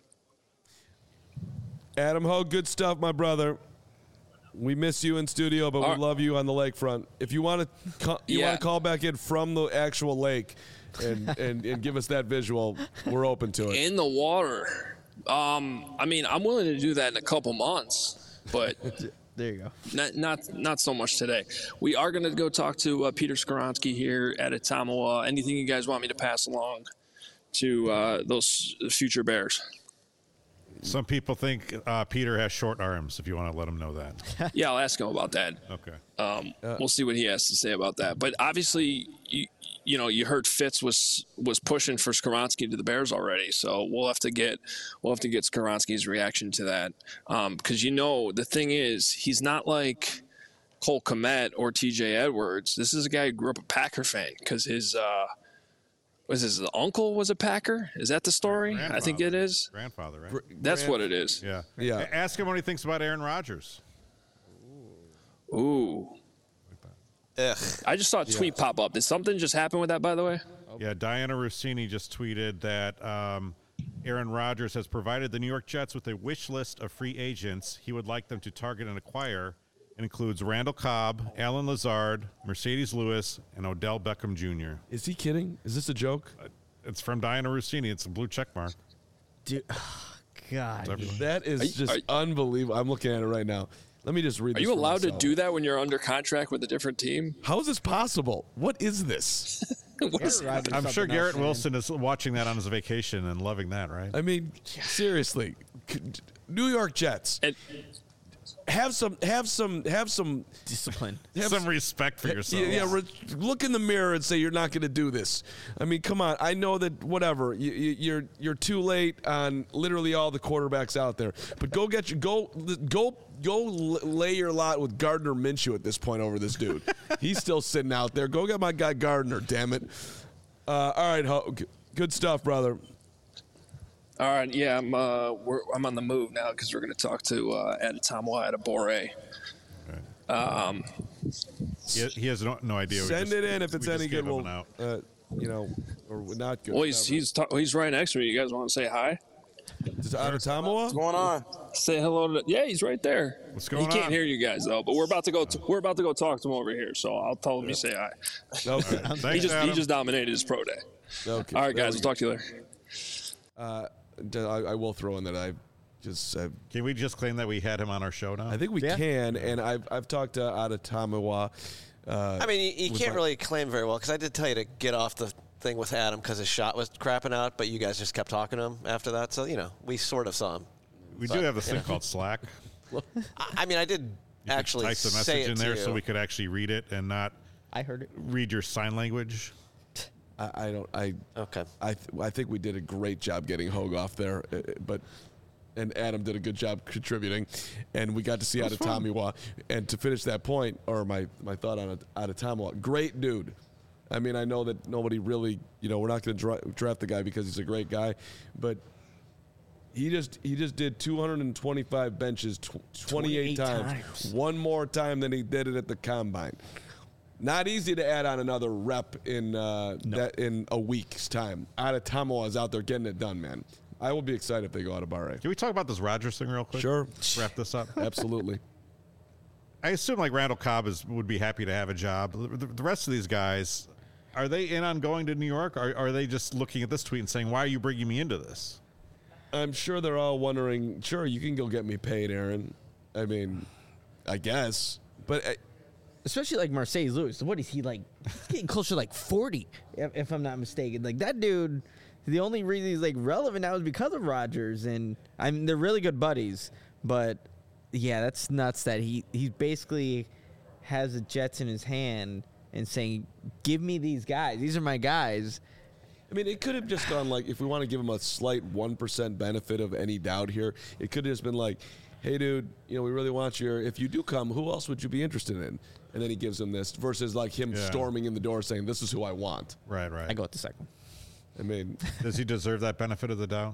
Adam Ho, good stuff, my brother. We miss you in studio, but we right. love you on the lakefront. If you want to, co- you yeah. want to call back in from the actual lake, and, and and give us that visual, we're open to it. In the water, um, I mean, I'm willing to do that in a couple months, but there you go. Not not not so much today. We are going to go talk to uh, Peter Skoronski here at Ottumwa. Anything you guys want me to pass along to uh, those future Bears? Some people think uh, Peter has short arms, if you want to let him know that. Yeah, I'll ask him about that. Okay. Um, uh, we'll see what he has to say about that. But obviously, you, you know, you heard Fitz was was pushing for Skoronski to the Bears already, so we'll have to get we'll have to get Skoronski's reaction to that. Um, because you know, the thing is, he's not like Cole Kmet or T J Edwards. This is a guy who grew up a Packer fan because his uh, was his uncle was a Packer? Is that the story? I think it is. Grandfather, right? Gr- That's grand- what it is. Yeah. Yeah. A- Ask him what he thinks about Aaron Rodgers. Ooh. Ugh. I just saw a tweet pop up. Did something just happen with that, by the way? Yeah, Diana Rossini just tweeted that um, Aaron Rodgers has provided the New York Jets with a wish list of free agents he would like them to target and acquire. It includes Randall Cobb, Alan Lazard, Mercedes Lewis, and Odell Beckham Junior Is he kidding? Is this a joke? It's from Diana Rossini. It's a blue check mark. Dude, oh, God. everywhere. That is Are you- just are you- unbelievable. I'm looking at it right now. Let me just read Are this you for allowed to myself. do that when you're under contract with a different team? How is this possible? What is this? What is- Aaron Rodgers I'm is sure something Garrett else, man. Wilson is watching that on his vacation and loving that, right? I mean, seriously. Could- New York Jets. And Have some have some have some Discipline. have Some respect for yourself. Yeah, yeah, re- look in the mirror and say you're not going to do this. I mean, come on. I know that whatever you, you, you're you're too late on literally all the quarterbacks out there. But go get your go go go lay your lot with Gardner Minshew at this point over this dude. He's still sitting out there. Go get my guy Gardner. Damn it. Uh, all right, Ho- good stuff, brother. all right, yeah, I'm uh, we're, I'm on the move now because we're going to talk to uh, Adetomo Adebore. Um, He, he has no, no idea. We Send just- it in if it's we just any gave good. him We'll, an out. uh, you know, or not good. well, he's whatever. he's, ta- he's right next to me. You guys want to say hi? Is it Adetomo? going on? Say hello to. Yeah, he's right there. What's going He can't on? hear you guys though, but we're about to go. To, we're about to go talk to him over here. So I'll tell him you say hi. Okay. Thanks, He just Adam. he just dominated his pro day. Okay. All right, There guys, we we'll talk to you later. Uh, I, I will throw in that I just I, Can we just claim that we had him on our show now? I think we Yeah. can, and I've I've talked to Adetomo. Uh, I mean, you, you with can't my- really claim very well because I did tell you to get off the thing with Adam because his shot was crapping out, but you guys just kept talking to him after that. So, you know, we sort of saw him. we but, do have this you thing know. called Slack. I, I mean, I did You could actually type the say message it in to there you. so we could actually read it and not I heard it. read your sign language. I, I don't I Okay. I th- I think we did a great job getting Hogue off there, uh, but. And Adam did a good job contributing, and we got to see Adetomo. And to finish that point, or my, my thought on Adetomo, great dude. I mean, I know that nobody really, you know, we're not going to dra- draft the guy because he's a great guy, but he just he just did two hundred twenty-five benches tw- twenty-eight, twenty-eight times, times. one more time than he did it at the combine. Not easy to add on another rep in uh, that in a week's time. Adetomo is out there getting it done, man. I will be excited if they go out of Bahrain. Can we talk about this Rodgers thing real quick? Sure. Wrap this up. Absolutely. I assume like Randall Cobb is would be happy to have a job. The, the rest of these guys, are they in on going to New York? Or are they just looking at this tweet and saying, "Why are you bringing me into this?" I'm sure they're all wondering, sure, you can go get me paid, Aaron. I mean, I guess. But uh, Especially like Mercedes Lewis. What is he like? He's getting closer to like forty, if, if I'm not mistaken. Like that dude, the only reason he's like relevant now is because of Rodgers, and I mean they're really good buddies. But yeah, that's nuts that he he basically has the Jets in his hand and saying, "Give me these guys. These are my guys." I mean, it could have just gone like, if we want to give him a slight one percent benefit of any doubt here, it could have just been like, hey, dude, you know, we really want you. If you do come, who else would you be interested in? And then he gives him this versus like him Yeah. storming in the door saying, this is who I want. Right, right. I go with the second. I mean, Does he deserve that benefit of the doubt?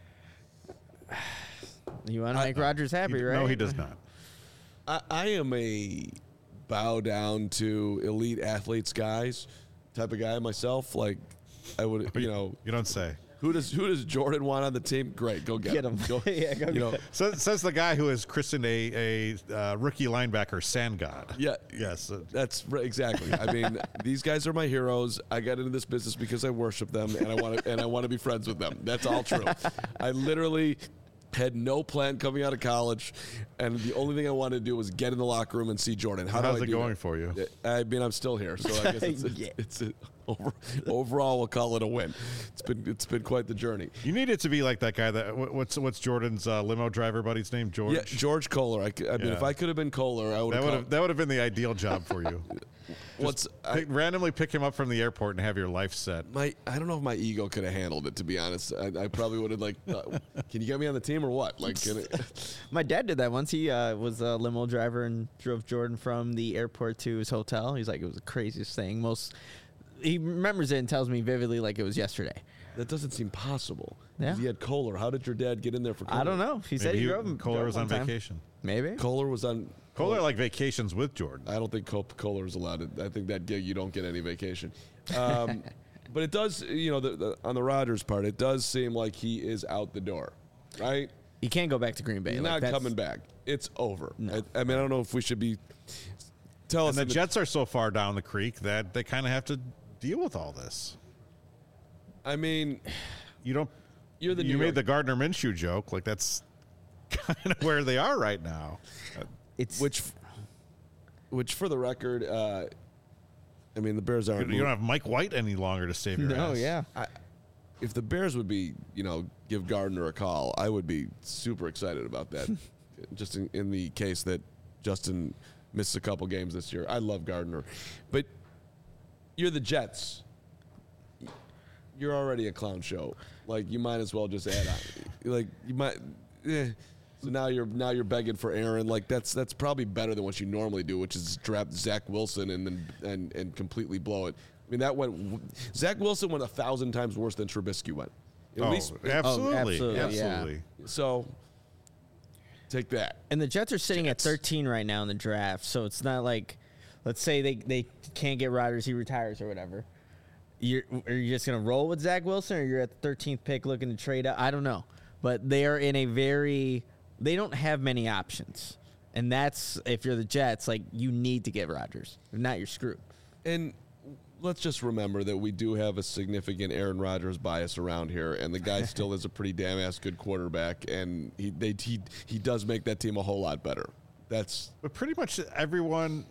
You want to make Rodgers happy, He- right? No, he does not. I, I am a bow down to elite athletes guys type of guy myself. Like, I would, you know, You don't say. who does who does Jordan want on the team? Great, go get, Get him. him. Go, Yeah, go you know, get So, says the guy who has christened a, a uh, rookie linebacker Sand God. yeah, Yes. uh, That's right, exactly. I mean, these guys are my heroes. I got into this business because I worship them, and I want to and I want to be friends with them. That's all true. I literally had no plan coming out of college, and the only thing I wanted to do was get in the locker room and see Jordan. How How's do I it do going that? for you? I mean, I'm still here, so I guess it's, it's, Yeah. it's a, over, overall we'll call it a win. It's been it's been quite the journey. You need it to be like that guy. That what- what's what's Jordan's uh, limo driver buddy's name? George. Yeah, George Kohler. I, c- I mean, Yeah. if I could have been Kohler, I would That would have. have that would have been the ideal job for you. What's I, Pick, randomly pick him up from the airport and have your life set. my? I don't know if my ego could have handled it. To be honest, I, I probably would have like. Uh, can you get me on the team or what? Like, can it, My dad did that once. He uh, was a limo driver and drove Jordan from the airport to his hotel. He's like, it was the craziest thing. Most he remembers it and tells me vividly like it was yesterday. That doesn't seem possible. Yeah. He had Kohler. How did your dad get in there for Kohler? I don't know. He said Maybe he, he, drove him. Kohler drove was one on time. vacation. Maybe. Kohler was on. Kohler like vacations with Jordan. I don't think Col- Kohler is allowed. To, I think that gig you don't get any vacation. Um, but it does, you know, the, the, on the Rodgers part, it does seem like he is out the door, right? He can't go back to Green Bay. He's Like, not that's- coming back. It's over. No. I, I mean, I don't know if we should be. Tell us. And the in the- Jets are so far down the creek that they kind of have to deal with all this. I mean, You don't. You're the you New made York- the Gardner Minshew joke. Like that's kind of where they are right now. It's which, which for the record, uh, I mean, the Bears You aren't. don't have Mike White any longer to save your no, ass. yeah. I, if the Bears would be, you know, give Gardner a call, I would be super excited about that. Just in, in the case that Justin missed a couple games this year. I love Gardner. But you're the Jets. You're already a clown show. Like, you might as well just add on. Like, you might. Eh. So now you're now you're begging for Aaron. Like that's that's probably better than what you normally do, which is draft Zach Wilson and then and, and completely blow it. I mean that went. Zach Wilson went a thousand times worse than Trubisky went. At Oh, least absolutely, absolutely, yeah. absolutely. so. Take that. And the Jets are sitting Jets. at thirteen right now in the draft, so it's not like, let's say they, they can't get Rodgers, he retires or whatever. You're are you just gonna roll with Zach Wilson, or you're at the thirteenth pick looking to trade up? I don't know, but they are in a very they don't have many options, and that's if you're the Jets, like you need to get Rodgers. If not, you're screwed. And let's just remember that we do have a significant Aaron Rodgers bias around here, and the guy still is a pretty damn ass good quarterback, and he they, he he does make that team a whole lot better. That's But pretty much everyone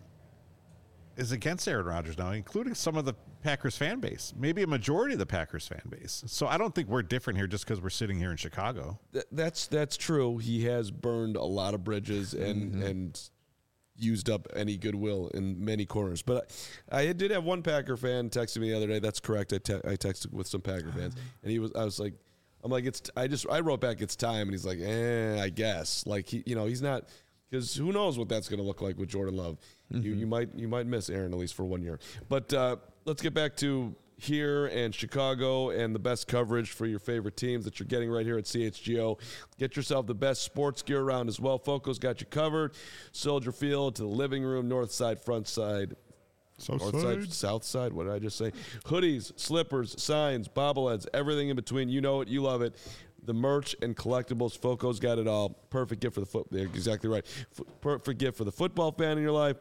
is against Aaron Rodgers now, including some of the Packers fan base, maybe a majority of the Packers fan base. So I don't think we're different here just because we're sitting here in Chicago. th- that's that's true. He has burned a lot of bridges and Mm-hmm. and used up any goodwill in many corners. But I, I did have one Packer fan texting me the other day. That's correct. I, te- I texted with some Packer fans, and he was. I was like, I'm like, it's. I just. I wrote back, it's time, and he's like, eh, I guess. Like he, you know, he's not. Because who knows what that's going to look like with Jordan Love? Mm-hmm. You, you might you might miss Aaron at least for one year. But uh, let's get back to here and Chicago and the best coverage for your favorite teams that you're getting right here at C H G O. Get yourself the best sports gear around as well. Foco's got you covered. Soldier Field to the living room, north side, front side. South North side, south side. What did I just say? Hoodies, slippers, signs, bobbleheads, everything in between. You know it. You love it. The merch and collectibles. Foco's got it all. Perfect gift for the foot. They're exactly right. F- perfect gift for the football fan in your life.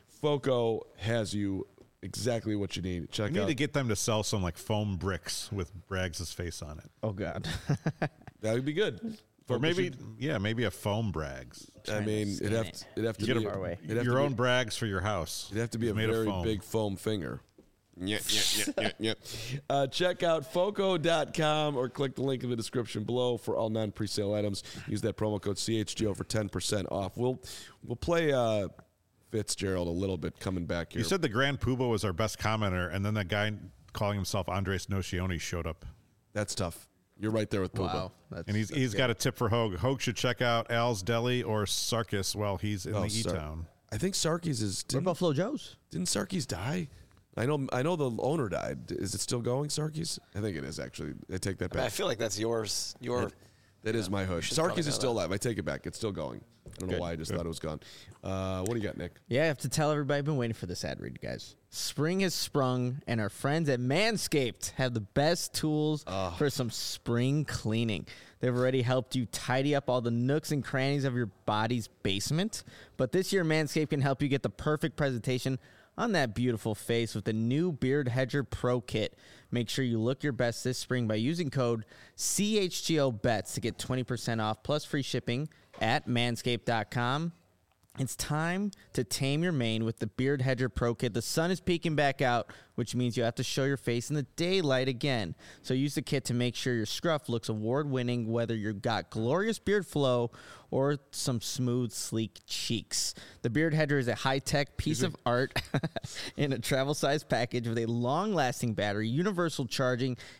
Foco has you exactly what you need. Check We need out. to get them to sell some like foam bricks with Braggs' face on it. Oh God. That would be good. Or Foco maybe, should- yeah, maybe a foam Braggs. I mean, Trying to it'd have scan to, it. it'd have to You be get a- Far away. it'd have your to own be, Braggs for your house. It'd have to be It's a made of very foam. big foam finger. Yeah, yeah, yeah, yeah, yeah. Uh, check out foco dot com or click the link in the description below for all non-presale items. Use that promo code C H G O for ten percent off. We'll we'll play uh, Fitzgerald a little bit coming back here. You said the Grand Poobah was our best commenter, and then that guy calling himself Andres Nocioni showed up. That's tough. You're right there with Puba. Wow. That's, And he's that's he's good. got a tip for Hogue. Hogue should check out Al's Deli or Sarkis while he's in Oh, the Sar- E-Town. I think Sarkis is What didn't, about Flo Joe's? didn't Sarkis die? I know I know the owner died. Is it still going, Sarkis? I think it is actually. I take that I, mean, I back. feel like that's yours. Your That is my hood. should probably Sarkis know is still that. alive. I take it back. It's still going. I don't know Good, why I just good. thought it was gone. Uh, what do you got, Nick? Yeah, I have to tell everybody I've been waiting for this ad read, guys. Spring has sprung, and our friends at Manscaped have the best tools for some spring cleaning. They've already helped you tidy up all the nooks and crannies of your body's basement. But this year, Manscaped can help you get the perfect presentation on that beautiful face with the new Beard Hedger Pro Kit. Make sure you look your best this spring by using code C H G O bets to get twenty percent off plus free shipping at manscaped dot com. It's time to tame your mane with the Beard Hedger Pro Kit. The sun is peeking back out, which means you have to show your face in the daylight again. So use the kit to make sure your scruff looks award-winning, whether you've got glorious beard flow or some smooth, sleek cheeks. The Beard Hedger is a high-tech piece of art in a travel-sized package with a long-lasting battery, universal charging,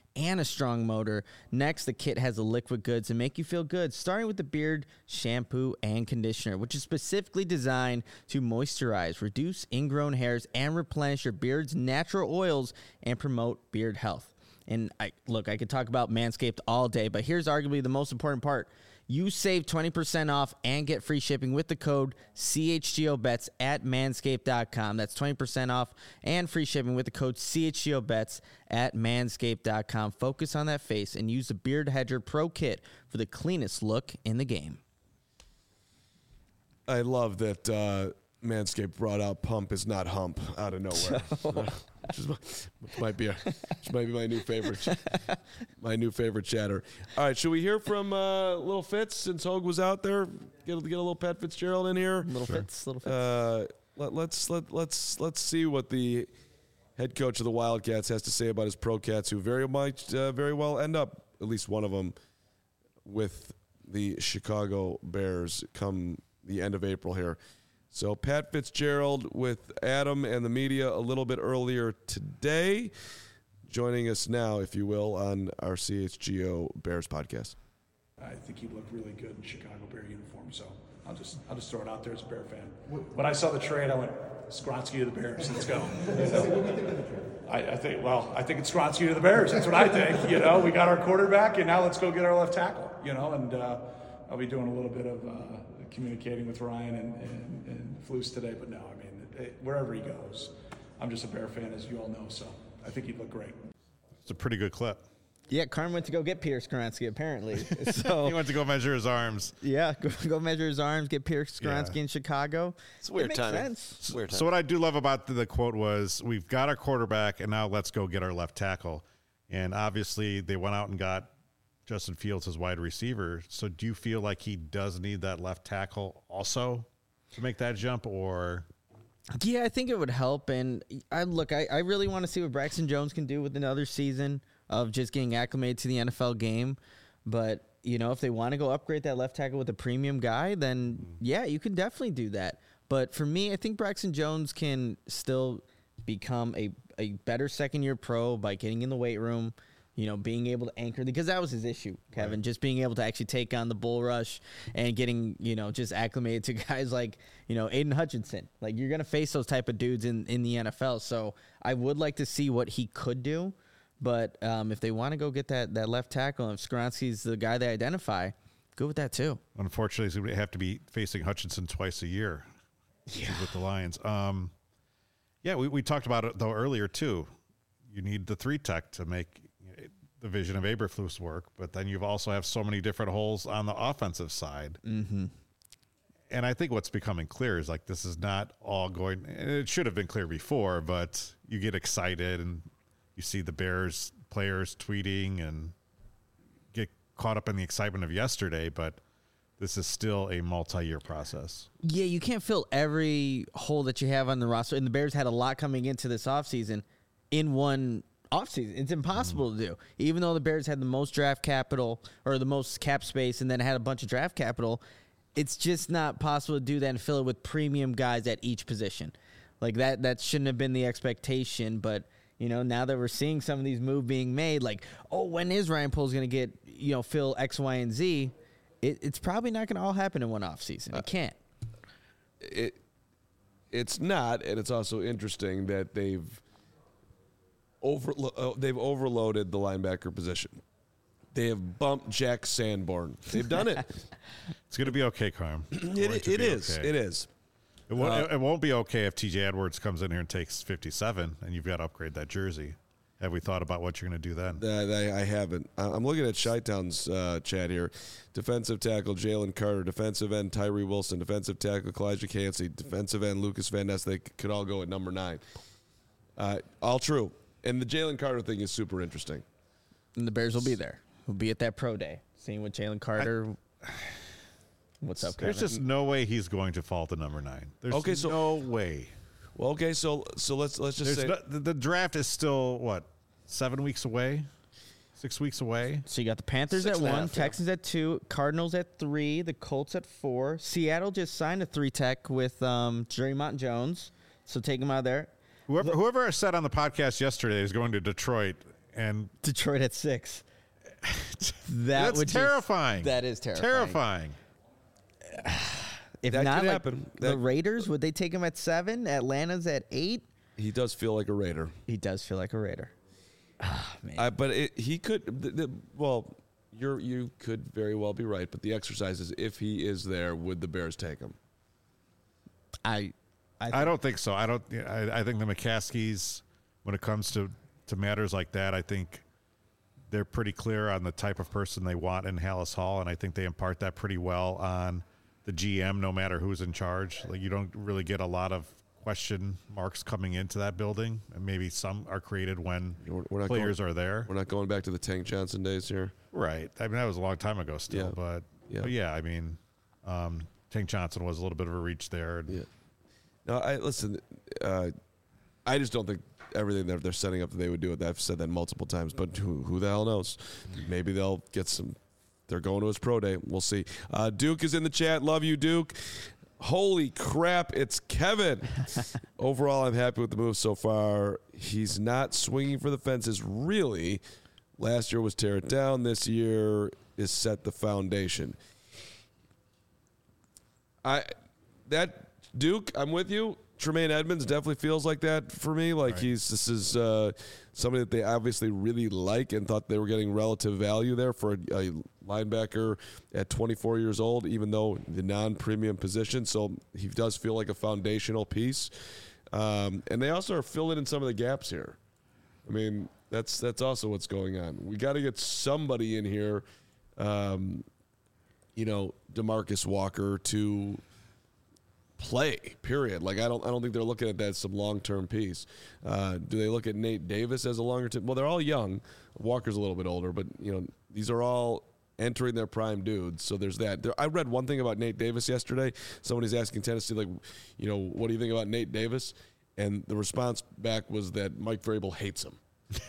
and a strong motor. Next, the kit has the liquid goods to make you feel good, starting with the beard shampoo and conditioner, which is specifically designed to moisturize, reduce ingrown hairs, and replenish your beard's natural oils and promote beard health. And I look, I could talk about Manscaped all day, but here's arguably the most important part. You save twenty percent off and get free shipping with the code C H G O Bets at manscaped dot com. That's twenty percent off and free shipping with the code C H G O Bets at manscaped dot com. Focus on that face and use the Beard Hedger Pro Kit for the cleanest look in the game. I love that uh, Manscaped brought out "Pump is not hump" out of nowhere. Which, is, which might be a, which might be my new favorite, my new favorite chatter. All right, should we hear from uh, Little Fitz since Hogue was out there? Get, get a little Pat Fitzgerald in here. Little sure. Fitz, Little Fitz. Uh, let, let's let let's let's see what the head coach of the Wildcats has to say about his Pro Cats, who very might uh, very well end up, at least one of them, with the Chicago Bears come the end of April here. So Pat Fitzgerald with Adam and the media a little bit earlier today, joining us now, if you will, on our C H G O Bears podcast. I think he looked really good in Chicago Bear uniform, so I'll just I'll just throw it out there as a Bear fan. When I saw the trade, I went, Skronsky to the Bears, let's go. I, I think, well, I think it's Skronsky to the Bears. That's what I think. You know, we got our quarterback, and now let's go get our left tackle. You know, and uh, I'll be doing a little bit of uh, communicating with Ryan and, and, and Flus today, but no, I mean, it, wherever he goes, I'm just a Bear fan, as you all know, so I think he'd look great. It's a pretty good clip. Yeah, Carm went to go get Pierce Skronsky, apparently. So he went to go measure his arms. Yeah, go, go measure his arms, get Pierce Skronsky yeah. in Chicago. It's a weird it timing. Sense. It's weird timing. So what I do love about the, the quote was, we've got our quarterback, and now let's go get our left tackle. And obviously, they went out and got Justin Fields as wide receiver. So do you feel like he does need that left tackle also to make that jump, or? Yeah, I think it would help. And I look, I, I really want to see what Braxton Jones can do with another season of just getting acclimated to the N F L game. But, you know, if they want to go upgrade that left tackle with a premium guy, then yeah, you can definitely do that. But for me, I think Braxton Jones can still become a, a better second year pro by getting in the weight room, you know, being able to anchor, because that was his issue, Kevin, right. Just being able to actually take on the bull rush and getting, you know, just acclimated to guys like, you know, Aiden Hutchinson. Like, you're going to face those type of dudes in, in the N F L. So I would like to see what he could do. But um, if they want to go get that, that left tackle, and if Skronsky's the guy they identify, go with that too. Unfortunately, he's going to have to be facing Hutchinson twice a year yeah. with the Lions. Um, yeah, we, we talked about it, though, earlier, too. You need the three tech to make the vision of Eberflus work, but then you also have so many different holes on the offensive side. Mm-hmm. And I think what's becoming clear is, like, this is not all going, and it should have been clear before, but you get excited and you see the Bears players tweeting and get caught up in the excitement of yesterday, but this is still a multi-year process. Yeah, you can't fill every hole that you have on the roster, and the Bears had a lot coming into this offseason in one offseason. It's impossible mm. to do. Even though the Bears had the most draft capital, or the most cap space, and then had a bunch of draft capital, it's just not possible to do that and fill it with premium guys at each position. Like, that that shouldn't have been the expectation, but you know, now that we're seeing some of these moves being made, like, oh, when is Ryan Poles going to get, you know, fill X, Y, and Z? It, it's probably not going to all happen in one offseason. It can't. It it's not, and it's also interesting that they've overlo- uh, they've overloaded the linebacker position. They have bumped Jack Sanborn. They've done it. It's going to be okay, Carm. It, it is. Okay. It is. It won't, uh, it won't be okay if T J Edwards comes in here and takes fifty-seven, and you've got to upgrade that jersey. Have we thought about what you're going to do then? Uh, I, I haven't. I'm looking at Chi-Town's uh, chat here. Defensive tackle Jalen Carter, defensive end Tyree Wilson, defensive tackle Kalijah Cansey, defensive end Lucas Van Ness. They could all go at number nine. Uh, all true. And the Jalen Carter thing is super interesting. And the Bears will be there. We'll be at that pro day, seeing what Jalen Carter. I, What's up, Kevin? There's just no way he's going to fall to number nine. There's okay, so, no way. Well, okay, so so let's let's just There's say no, the, the draft is still what, seven weeks away, six weeks away. So you got the Panthers Six at and a one, half, yeah. Texans at two, Cardinals at three, the Colts at four. Seattle just signed a three tech with um, Jerry Mont Jones, so take him out of there. Whoever whoever said on the podcast yesterday is going to Detroit and Detroit at six. That that's would terrifying. Just, that is terrifying. Terrifying. If That not, could like, happen. the That- Raiders, would they take him at seven? Atlanta's at eight. He does feel like a Raider. He does feel like a Raider. Ah, man. I, but it, he could. The, the, well, you're you could very well be right. But the exercise is, if he is there, would the Bears take him? I, I don't think so. I don't. I, I think the McCaskies, when it comes to, to matters like that, I think they're pretty clear on the type of person they want in Hallis Hall, and I think they impart that pretty well on the G M, no matter who's in charge. Like, you don't really get a lot of question marks coming into that building, and maybe some are created when We're, we're not players going, are there. We're not going back to the Tank Johnson days here. Right. I mean, that was a long time ago still, Yeah. but Yeah. but yeah, I mean, um, Tank Johnson was a little bit of a reach there. Yeah. No, I listen. Uh, I just don't think everything that they're setting up that they would do it. I've said that multiple times, but who, who the hell knows? Maybe they'll get some. They're going to his pro day. We'll see. Uh, Duke is in the chat. Love you, Duke. Holy crap, it's Kevin. Overall, I'm happy with the move so far. He's not swinging for the fences, really. Last year was tear it down. This year is set the foundation. I that Duke, I'm with you. Tremaine Edmonds definitely feels like that for me. Like Right. he's this is uh, somebody that they obviously really like and thought they were getting relative value there for a, a linebacker at twenty-four years old, even though the non-premium position. So he does feel like a foundational piece. Um, and they also are filling in some of the gaps here. I mean, that's that's also what's going on. We got to get somebody in here, um, you know, DeMarcus Walker to play, period. Like, I don't I don't think they're looking at that as some long-term piece. Uh, do they look at Nate Davis as a longer-term? Well, they're all young. Walker's a little bit older, but, you know, these are all entering their prime dudes. So there's that. There, I read one thing about Nate Davis yesterday. Somebody's asking Tennessee, like, you know, what do you think about Nate Davis? And the response back was that Mike Vrabel hates him.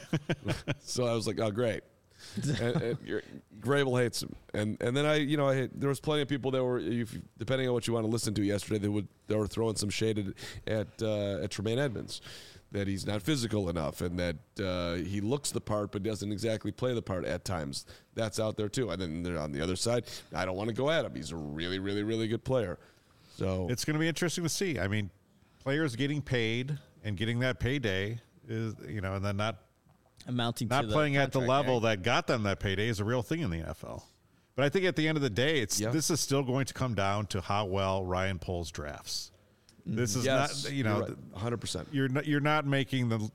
So I was like, oh, great. and, and you're- Vrabel hates him, and and then I, you know, I there was plenty of people that were, if, depending on what you want to listen to yesterday, they would they were throwing some shade at at, uh, at Tremaine Edmonds, that he's not physical enough, and that uh, he looks the part but doesn't exactly play the part at times. That's out there too. And then they're on the other side. I don't want to go at him. He's a really, really, really good player. So It's going to be interesting to see. I mean, players getting paid and getting that payday is, you know, and then not amounting not to the playing at the contract, level right? that got them that payday is a real thing in the N F L. But I think at the end of the day, it's Yeah. this is still going to come down to how well Ryan Poles drafts. This is yes, not, you know, you're right, one hundred percent. you're not, you're not making the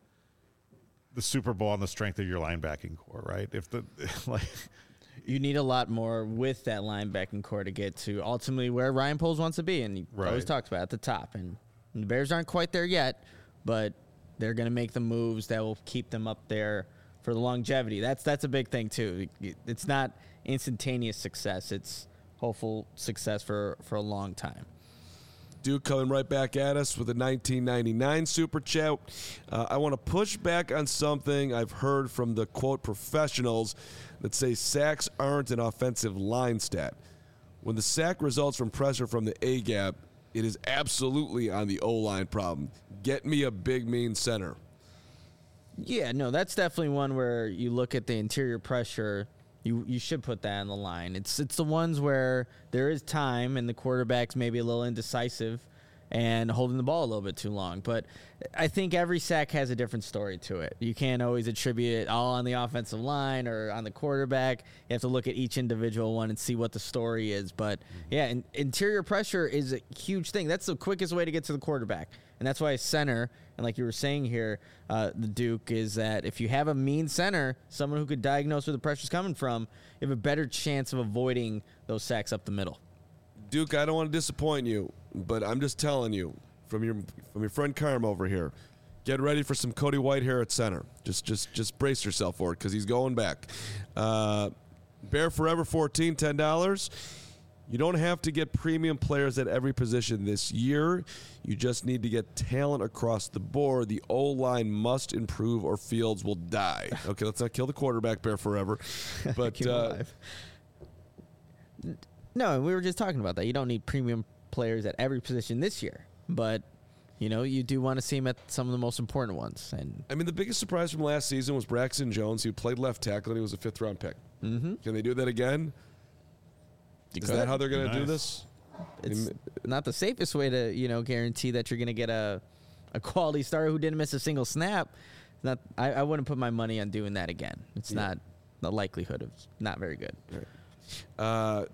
the Super Bowl on the strength of your linebacking core, right? If the like, You need a lot more with that linebacking core to get to ultimately where Ryan Poles wants to be, and he Right. always talks about at the top. And the Bears aren't quite there yet, but they're going to make the moves that will keep them up there for the longevity. That's that's a big thing too. It's not instantaneous success; it's hopeful success for for a long time. Duke coming right back at us with a nineteen ninety-nine super chat. Uh, I want to push back on something I've heard from the, quote, professionals that say sacks aren't an offensive line stat. When the sack results from pressure from the A-gap, it is absolutely on the O-line problem. Get me a big, mean center. Yeah, no, that's definitely one where you look at the interior pressure. You you should put that on the line. It's it's the ones where there is time and the quarterback's maybe a little indecisive and holding the ball a little bit too long. But I think every sack has a different story to it. You can't always attribute it all on the offensive line or on the quarterback. You have to look at each individual one and see what the story is. But yeah, in, interior pressure is a huge thing. That's the quickest way to get to the quarterback. And that's why a center, and like you were saying here, uh, the Duke, is that if you have a mean center, someone who could diagnose where the pressure's coming from, you have a better chance of avoiding those sacks up the middle. Duke, I don't want to disappoint you, but I'm just telling you, from your from your friend Carm over here, get ready for some Cody Whitehair at center. Just just just brace yourself for it, because he's going back. Uh, Bear Forever fourteen, ten dollars. You don't have to get premium players at every position this year. You just need to get talent across the board. The O-line must improve or Fields will die. Okay, let's not kill the quarterback, Bear Forever. But Keep 'em uh, alive. No, we were just talking about that. You don't need premium players at every position this year, but you know, you do want to see him at some of the most important ones. And I mean, the biggest surprise from last season was Braxton Jones, who played left tackle, and he was a fifth-round pick. Mm-hmm. Can they do that again? Is that how they're going to Nice. do this? it's not the safest way to, you know, guarantee that you're going to get a, a quality starter who didn't miss a single snap. Not, I, I wouldn't put my money on doing that again. It's Yeah. not the likelihood of not very good. Uh,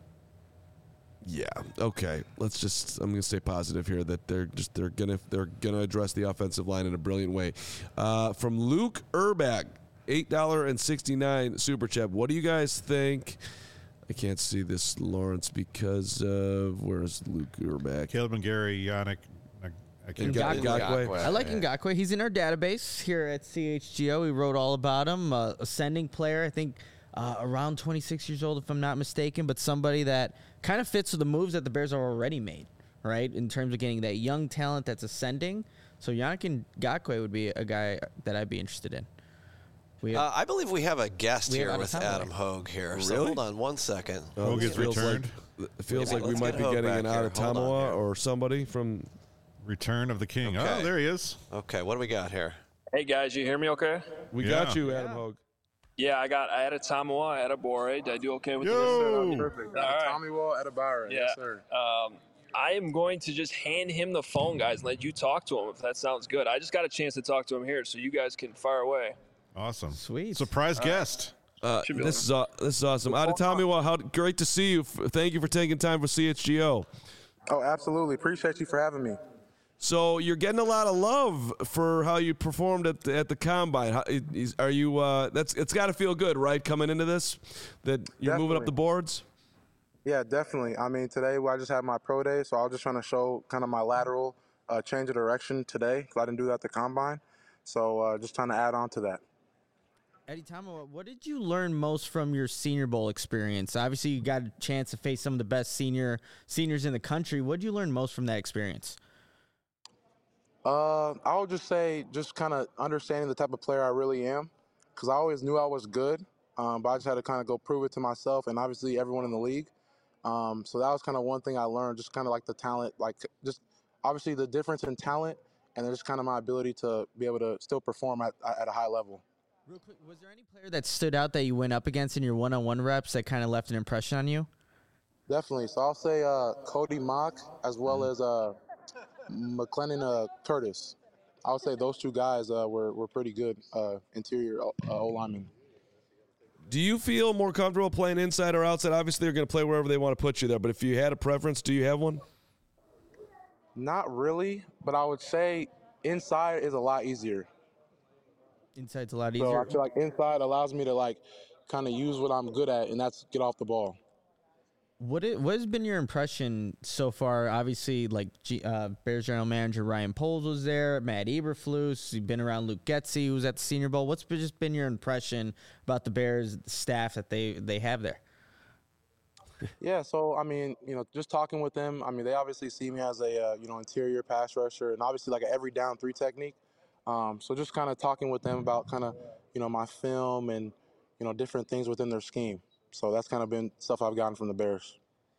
yeah. Okay. Let's just. I'm going to stay positive here that they're just they're gonna they're gonna address the offensive line in a brilliant way. Uh, from Luke Urbach, eight dollar and sixty nine super chat. What do you guys think? I can't see this, Lawrence, because of where's Luke Urbach? Caleb and Gary, Yannick. I, I can't Ngakwe. Ngakwe. Ngakwe. I like Ngakwe. He's in our database here at C H G O. We wrote all about him. Uh, ascending player, I think uh, around twenty-six years old, if I'm not mistaken, but somebody that kind of fits with the moves that the Bears are already made, right, in terms of getting that young talent that's ascending. So Yannick Ngakwe would be a guy that I'd be interested in. We have, Uh, I believe we have a guest We have here Adam with Hogue. Adam Hogue here. So Really? hold on one second. Oh, Hogue this is feels returned. Like, it feels Yeah, like we let's might get be Hogue getting back an here. out of Hold on Tamawa here. or somebody from. Return of the King. Oh, Okay. there he is. Okay, what do we got here? Hey guys, you hear me okay? We Yeah. got you, Adam Hogue. Yeah, I got I had a Tamawa, I had a Bore. Did I do okay with Yo! this? Perfect. All right. Tommy Wall at a Byron. Yeah. Yes, sir. Um, I am going to just hand him the phone, guys, and let you talk to him if that sounds good. I just got a chance to talk to him here, so you guys can fire away. Awesome. Sweet. Surprise guest. Uh, Should be this is uh, this is awesome. Adetomiwa, how great to see you. F- Thank you for taking time for C H G O. Oh, absolutely. Appreciate you for having me. So you're getting a lot of love for how you performed at the, at the combine. How, is, are you? Uh, that's it's got to feel good, right? Coming into this, that you're moving up Definitely. the boards. Yeah, definitely. I mean, today I just had my pro day, so I was just trying to show kind of my lateral uh, change of direction today because I didn't do that at the combine. So uh, just trying to add on to that. Eddie Tamawa, what did you learn most from your Senior Bowl experience? Obviously, you got a chance to face some of the best senior seniors in the country. What did you learn most from that experience? Uh, I would just say just kind of understanding the type of player I really am because I always knew I was good, um, but I just had to kind of go prove it to myself and obviously everyone in the league. Um, so that was kind of one thing I learned, just kind of like the talent, like just obviously the difference in talent and then just kind of my ability to be able to still perform at, at a high level. Real quick, was there any player that stood out that you went up against in your one-on-one reps that kind of left an impression on you? Definitely. So I'll say uh, Cody Mock as well as uh, McLennan uh, Curtis. I would say those two guys uh, were, were pretty good uh, interior uh, O-linemen. Do you feel more comfortable playing inside or outside? Obviously, they're going to play wherever they want to put you there. But if you had a preference, do you have one? Not really, but I would say inside is a lot easier. Inside's a lot So easier. I feel like inside allows me to like kind of use what I'm good at, and that's get off the ball. What it, what has been your impression so far? Obviously, like G, uh, Bears general manager Ryan Poles was there, Matt Eberflus. You've been around Luke Getsy, who was at the Senior Bowl. What's been, just been your impression about the Bears staff that they they have there? Yeah, so I mean, you know, just talking with them, I mean, they obviously see me as a uh, you know interior pass rusher, and obviously like an every down three technique. Um, so just kind of talking with them about kind of you know my film and you know different things within their scheme. So that's kind of been stuff I've gotten from the Bears.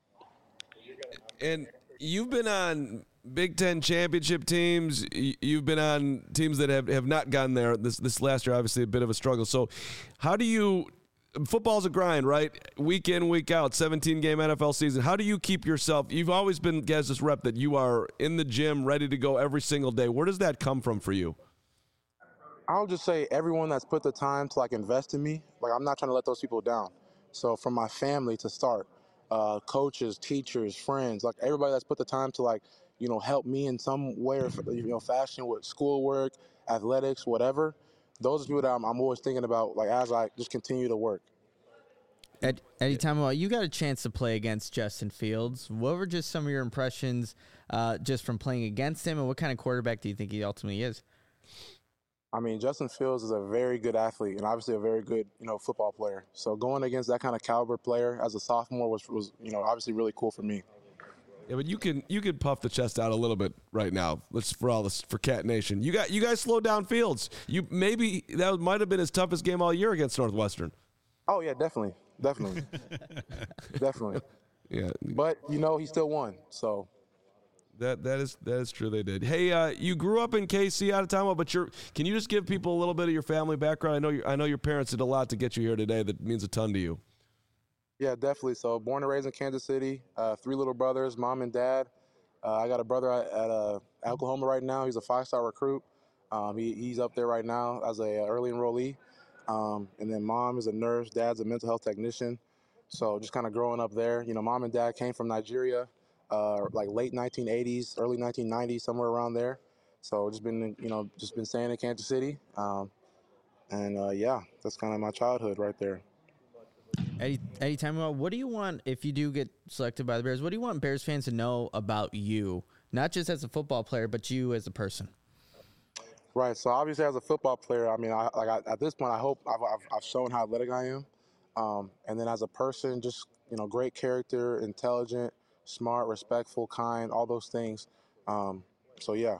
And you've been on Big Ten championship teams. Y- You've been on teams that have, have not gotten there. This this last year, obviously, a bit of a struggle. So how do you – football's a grind, right? Week in, week out, seventeen-game N F L season. How do you keep yourself – you've always been, guys, this rep that you are in the gym, ready to go every single day. Where does that come from for you? I'll just say everyone that's put the time to like invest in me, like I'm not trying to let those people down. So from my family to start, uh, coaches, teachers, friends, like everybody that's put the time to like, you know, help me in some way or you know fashion with schoolwork, athletics, whatever. Those are people that I'm, I'm always thinking about, like as I just continue to work. Ed, Eddie Tamawa, you got a chance to play against Justin Fields. What were just some of your impressions uh, just from playing against him, and what kind of quarterback do you think he ultimately is? I mean, Justin Fields is a very good athlete and obviously a very good, you know, football player. So going against that kind of caliber player as a sophomore was, was you know, obviously really cool for me. Yeah, but you can you can puff the chest out a little bit right now. Let's for all this for Cat Nation. You got you guys slowed down Fields. You maybe that might have been his toughest game all year against Northwestern. Oh yeah, definitely, definitely, definitely. Yeah, But you know, he still won. So That that is that is true. They did. Hey, uh, you grew up in K C out of Time, but you're. Can you just give people a little bit of your family background? I know you, I know your parents did a lot to get you here today. That means a ton to you. Yeah, definitely. So born and raised in Kansas City. Uh, three little brothers, mom and dad. Uh, I got a brother at, at uh, Oklahoma right now. He's a five-star recruit. Um, he, he's up there right now as a uh, early enrollee. Um, and then mom is a nurse. Dad's a mental health technician. So just kind of growing up there. You know, mom and dad came from Nigeria. Uh, like late nineteen eighties, early nineteen nineties, somewhere around there. So just been, you know, just been staying in Kansas City. Um, and uh, yeah, that's kind of my childhood right there. Eddie, Eddie Timewell, what do you want if you do get selected by the Bears? What do you want Bears fans to know about you, not just as a football player, but you as a person? Right. So obviously, as a football player, I mean, I, like I, at this point, I hope I've, I've, I've shown how athletic I am. Um, and then as a person, just, you know, great character, intelligent, smart, respectful, kind, all those things. Um, so, yeah.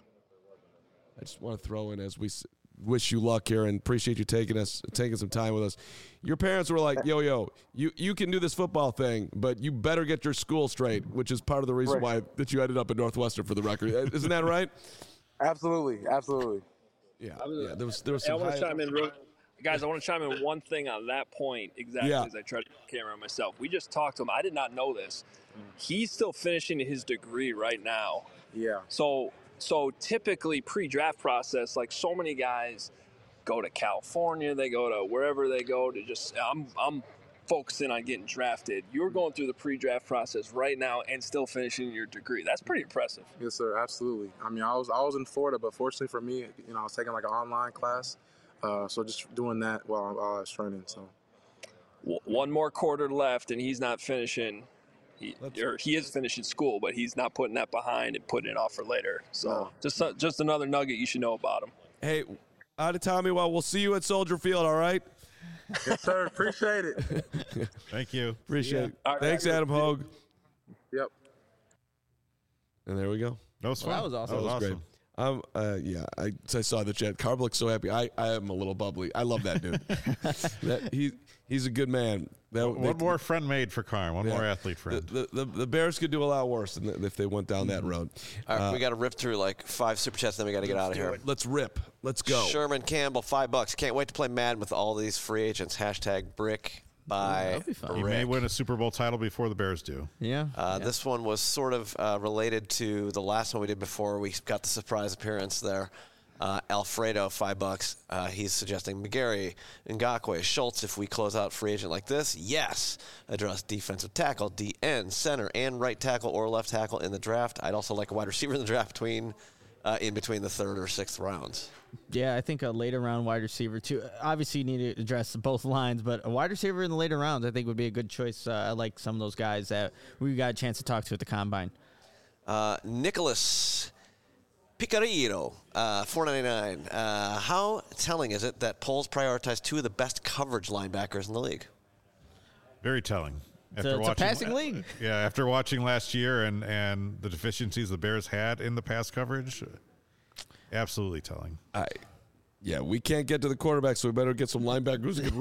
I just want to throw in as we s- wish you luck here and appreciate you taking us, taking some time with us. Your parents were like, yo, yo, you, you can do this football thing, but you better get your school straight, which is part of the reason Right. why that you ended up at Northwestern for the record. Isn't that right? Absolutely. Absolutely. Yeah. Yeah. There was, there was Hey, I some want high- to chime in real Guys, I want to chime in one thing on that point exactly Yeah. as I try to camera on myself. We just talked to him. I did not know this. He's still finishing his degree right now. Yeah. So so typically pre-draft process, like so many guys go to California, they go to wherever they go to just I'm I'm focusing on getting drafted. You're going through the pre-draft process right now and still finishing your degree. That's pretty impressive. Yes, sir. Absolutely. I mean, I was I was in Florida, but fortunately for me, you know, I was taking like an online class. Uh, so just doing that while I, while I was training. So W- One more quarter left, and he's not finishing. He, Let's- or he is finishing school, but he's not putting that behind and putting it off for later. So No. just uh, just another nugget you should know about him. Hey, out of Tommy, well, we'll see you at Soldier Field, all right? yes, sir. Appreciate it. Thank you. Appreciate it. All right. Thanks, Adam Hogue. Yep. And there we go. That was fun. Well, that was awesome. That was awesome. great. Um, uh, yeah, I, I saw the chat. Carb looks so happy. I, I am a little bubbly. I love that dude. that, he he's a good man. That, One they- more friend made for Carm. One yeah. more athlete The, friend. the, the, the Bears could do a lot worse than if they went down that road. All right, Uh, we got to rip through like five super chats, then we got to get out of here. Let's rip. Let's go. Sherman Campbell, five bucks. Can't wait to play Madden with all these free agents. Hashtag brick by that'll be fun. He may Rick. win a Super Bowl title before the Bears do. Yeah. Uh, This one was sort of uh, related to the last one we did before. We got the surprise appearance there. Uh, Alfredo, five bucks. Uh, he's suggesting McGarry, Ngakwe, Schultz. If we close out free agent like this, yes. Address defensive tackle, D N, center, and right tackle or left tackle in the draft. I'd also like a wide receiver in the draft between, uh, in between the third or sixth rounds. Yeah, I think a later round wide receiver too. Obviously, you need to address both lines, but a wide receiver in the later rounds, I think, would be a good choice. Uh, I like some of those guys that we got a chance to talk to at the combine. Uh, Nicholas Picarino, uh, four ninety-nine. Uh, how telling is it that polls prioritize two of the best coverage linebackers in the league? Very telling. It's a, it's a passing league. Yeah, after watching last year and, and the deficiencies the Bears had in the pass coverage, absolutely telling. I, yeah, we can't get to the quarterback, so we better get some linebackers who can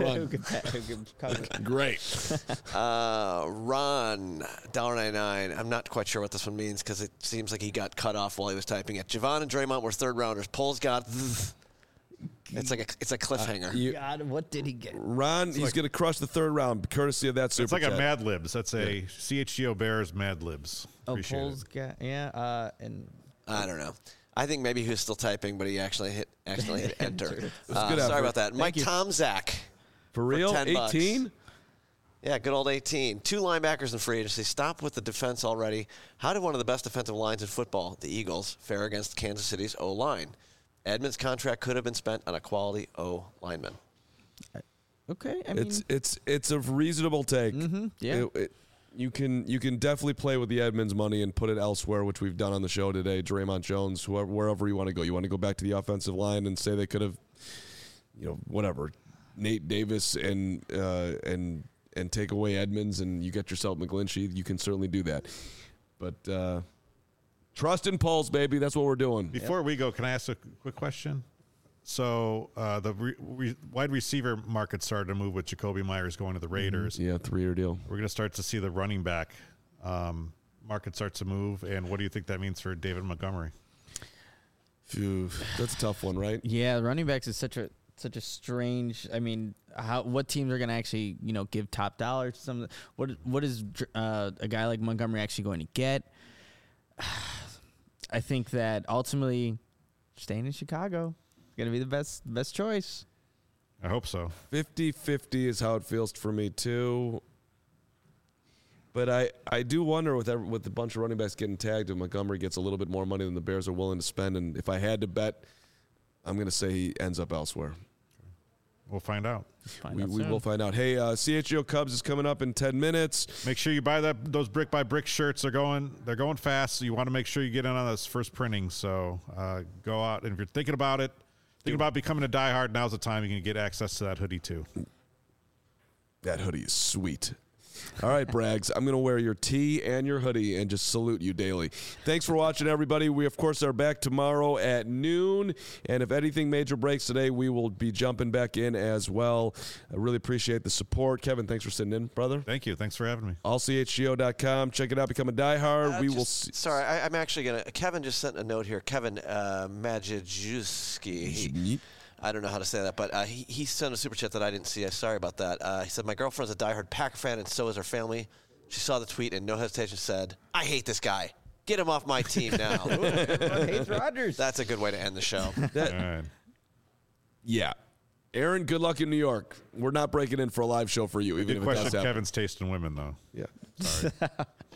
run. Great. Uh, Ron, one ninety-nine. I'm not quite sure what this one means because it seems like he got cut off while he was typing it. Javon and Draymond were third rounders. Polls got. It's like a it's a cliffhanger. You, God, what did he get? Ron, he's going to crush the third round, courtesy of that super It's like chat. a Mad Libs. That's a C H G O Bears Mad Libs. Oh, Appreciate Poles it. got yeah, uh, and I don't know. I think maybe he was still typing, but he actually hit accidentally hit enter. Uh, good sorry effort. about that. Mike you. Tomzak. For real? ten bucks. eighteen? Yeah, good old eighteen. Two linebackers in free agency. Stop with the defense already. How did one of the best defensive lines in football, the Eagles, fare against Kansas City's O-line? Edmonds' contract could have been spent on a quality O lineman. okay. I mean, It's it's it's a reasonable take. Mm-hmm, yeah. It- it- you can you can definitely play with the Edmonds money and put it elsewhere, which we've done on the show today. Draymond Jones, whoever, wherever you want to go. You want to go back to the offensive line and say they could have, you know, whatever, Nate Davis and uh, and and take away Edmonds and you get yourself McGlinchey. You can certainly do that, but uh, trust in Pulse, baby. That's what we're doing. Before we go, can I ask a quick question? So uh, the re- re- wide receiver market started to move with Jacoby Myers going to the Raiders. Yeah, three-year deal. We're going to start to see the running back um, market starts to move, and what do you think that means for David Montgomery? Phew, that's a tough one, right? Yeah, running backs is such a such a strange. I mean, how what teams are going to actually you know give top dollar to some? What what is uh, a guy like Montgomery actually going to get? I think that ultimately, staying in Chicago is going to be the best best choice. I hope so. fifty-fifty is how it feels for me too. But I, I do wonder with every, with a bunch of running backs getting tagged, if Montgomery gets a little bit more money than the Bears are willing to spend. And if I had to bet, I'm going to say he ends up elsewhere. We'll find out. Find We, out we soon. will find out. Hey, uh, C H G O Cubs is coming up in ten minutes. Make sure you buy that those brick by brick shirts. They're going they're going fast. So you want to make sure you get in on this first printing. So uh, go out, and if you're thinking about it, thinking about becoming a diehard, now's the time you can get access to that hoodie too. That hoodie is sweet. All right, Braggs, I'm going to wear your tee and your hoodie and just salute you daily. Thanks for watching, everybody. We, of course, are back tomorrow at noon. And if anything major breaks today, we will be jumping back in as well. I really appreciate the support. Kevin, thanks for sitting in, brother. Thank you. Thanks for having me. all c h g o dot com. Check it out. Become a diehard. Uh, we just- will see. Sorry, I, I'm actually going to. Kevin just sent a note here. Kevin uh, Majewski. He- I don't know how to say that, but uh, he, he sent a super chat that I didn't see. I'm sorry about that. Uh, he said, my girlfriend's a diehard Packer fan, and so is her family. She saw the tweet and no hesitation said, I hate this guy. Get him off my team now. Hates Rodgers. That's a good way to end the show. That- All right. yeah. Aaron, good luck in New York. We're not breaking in for a live show for you, even Good if it question. does happen. Kevin's taste in women, though. Yeah. Sorry.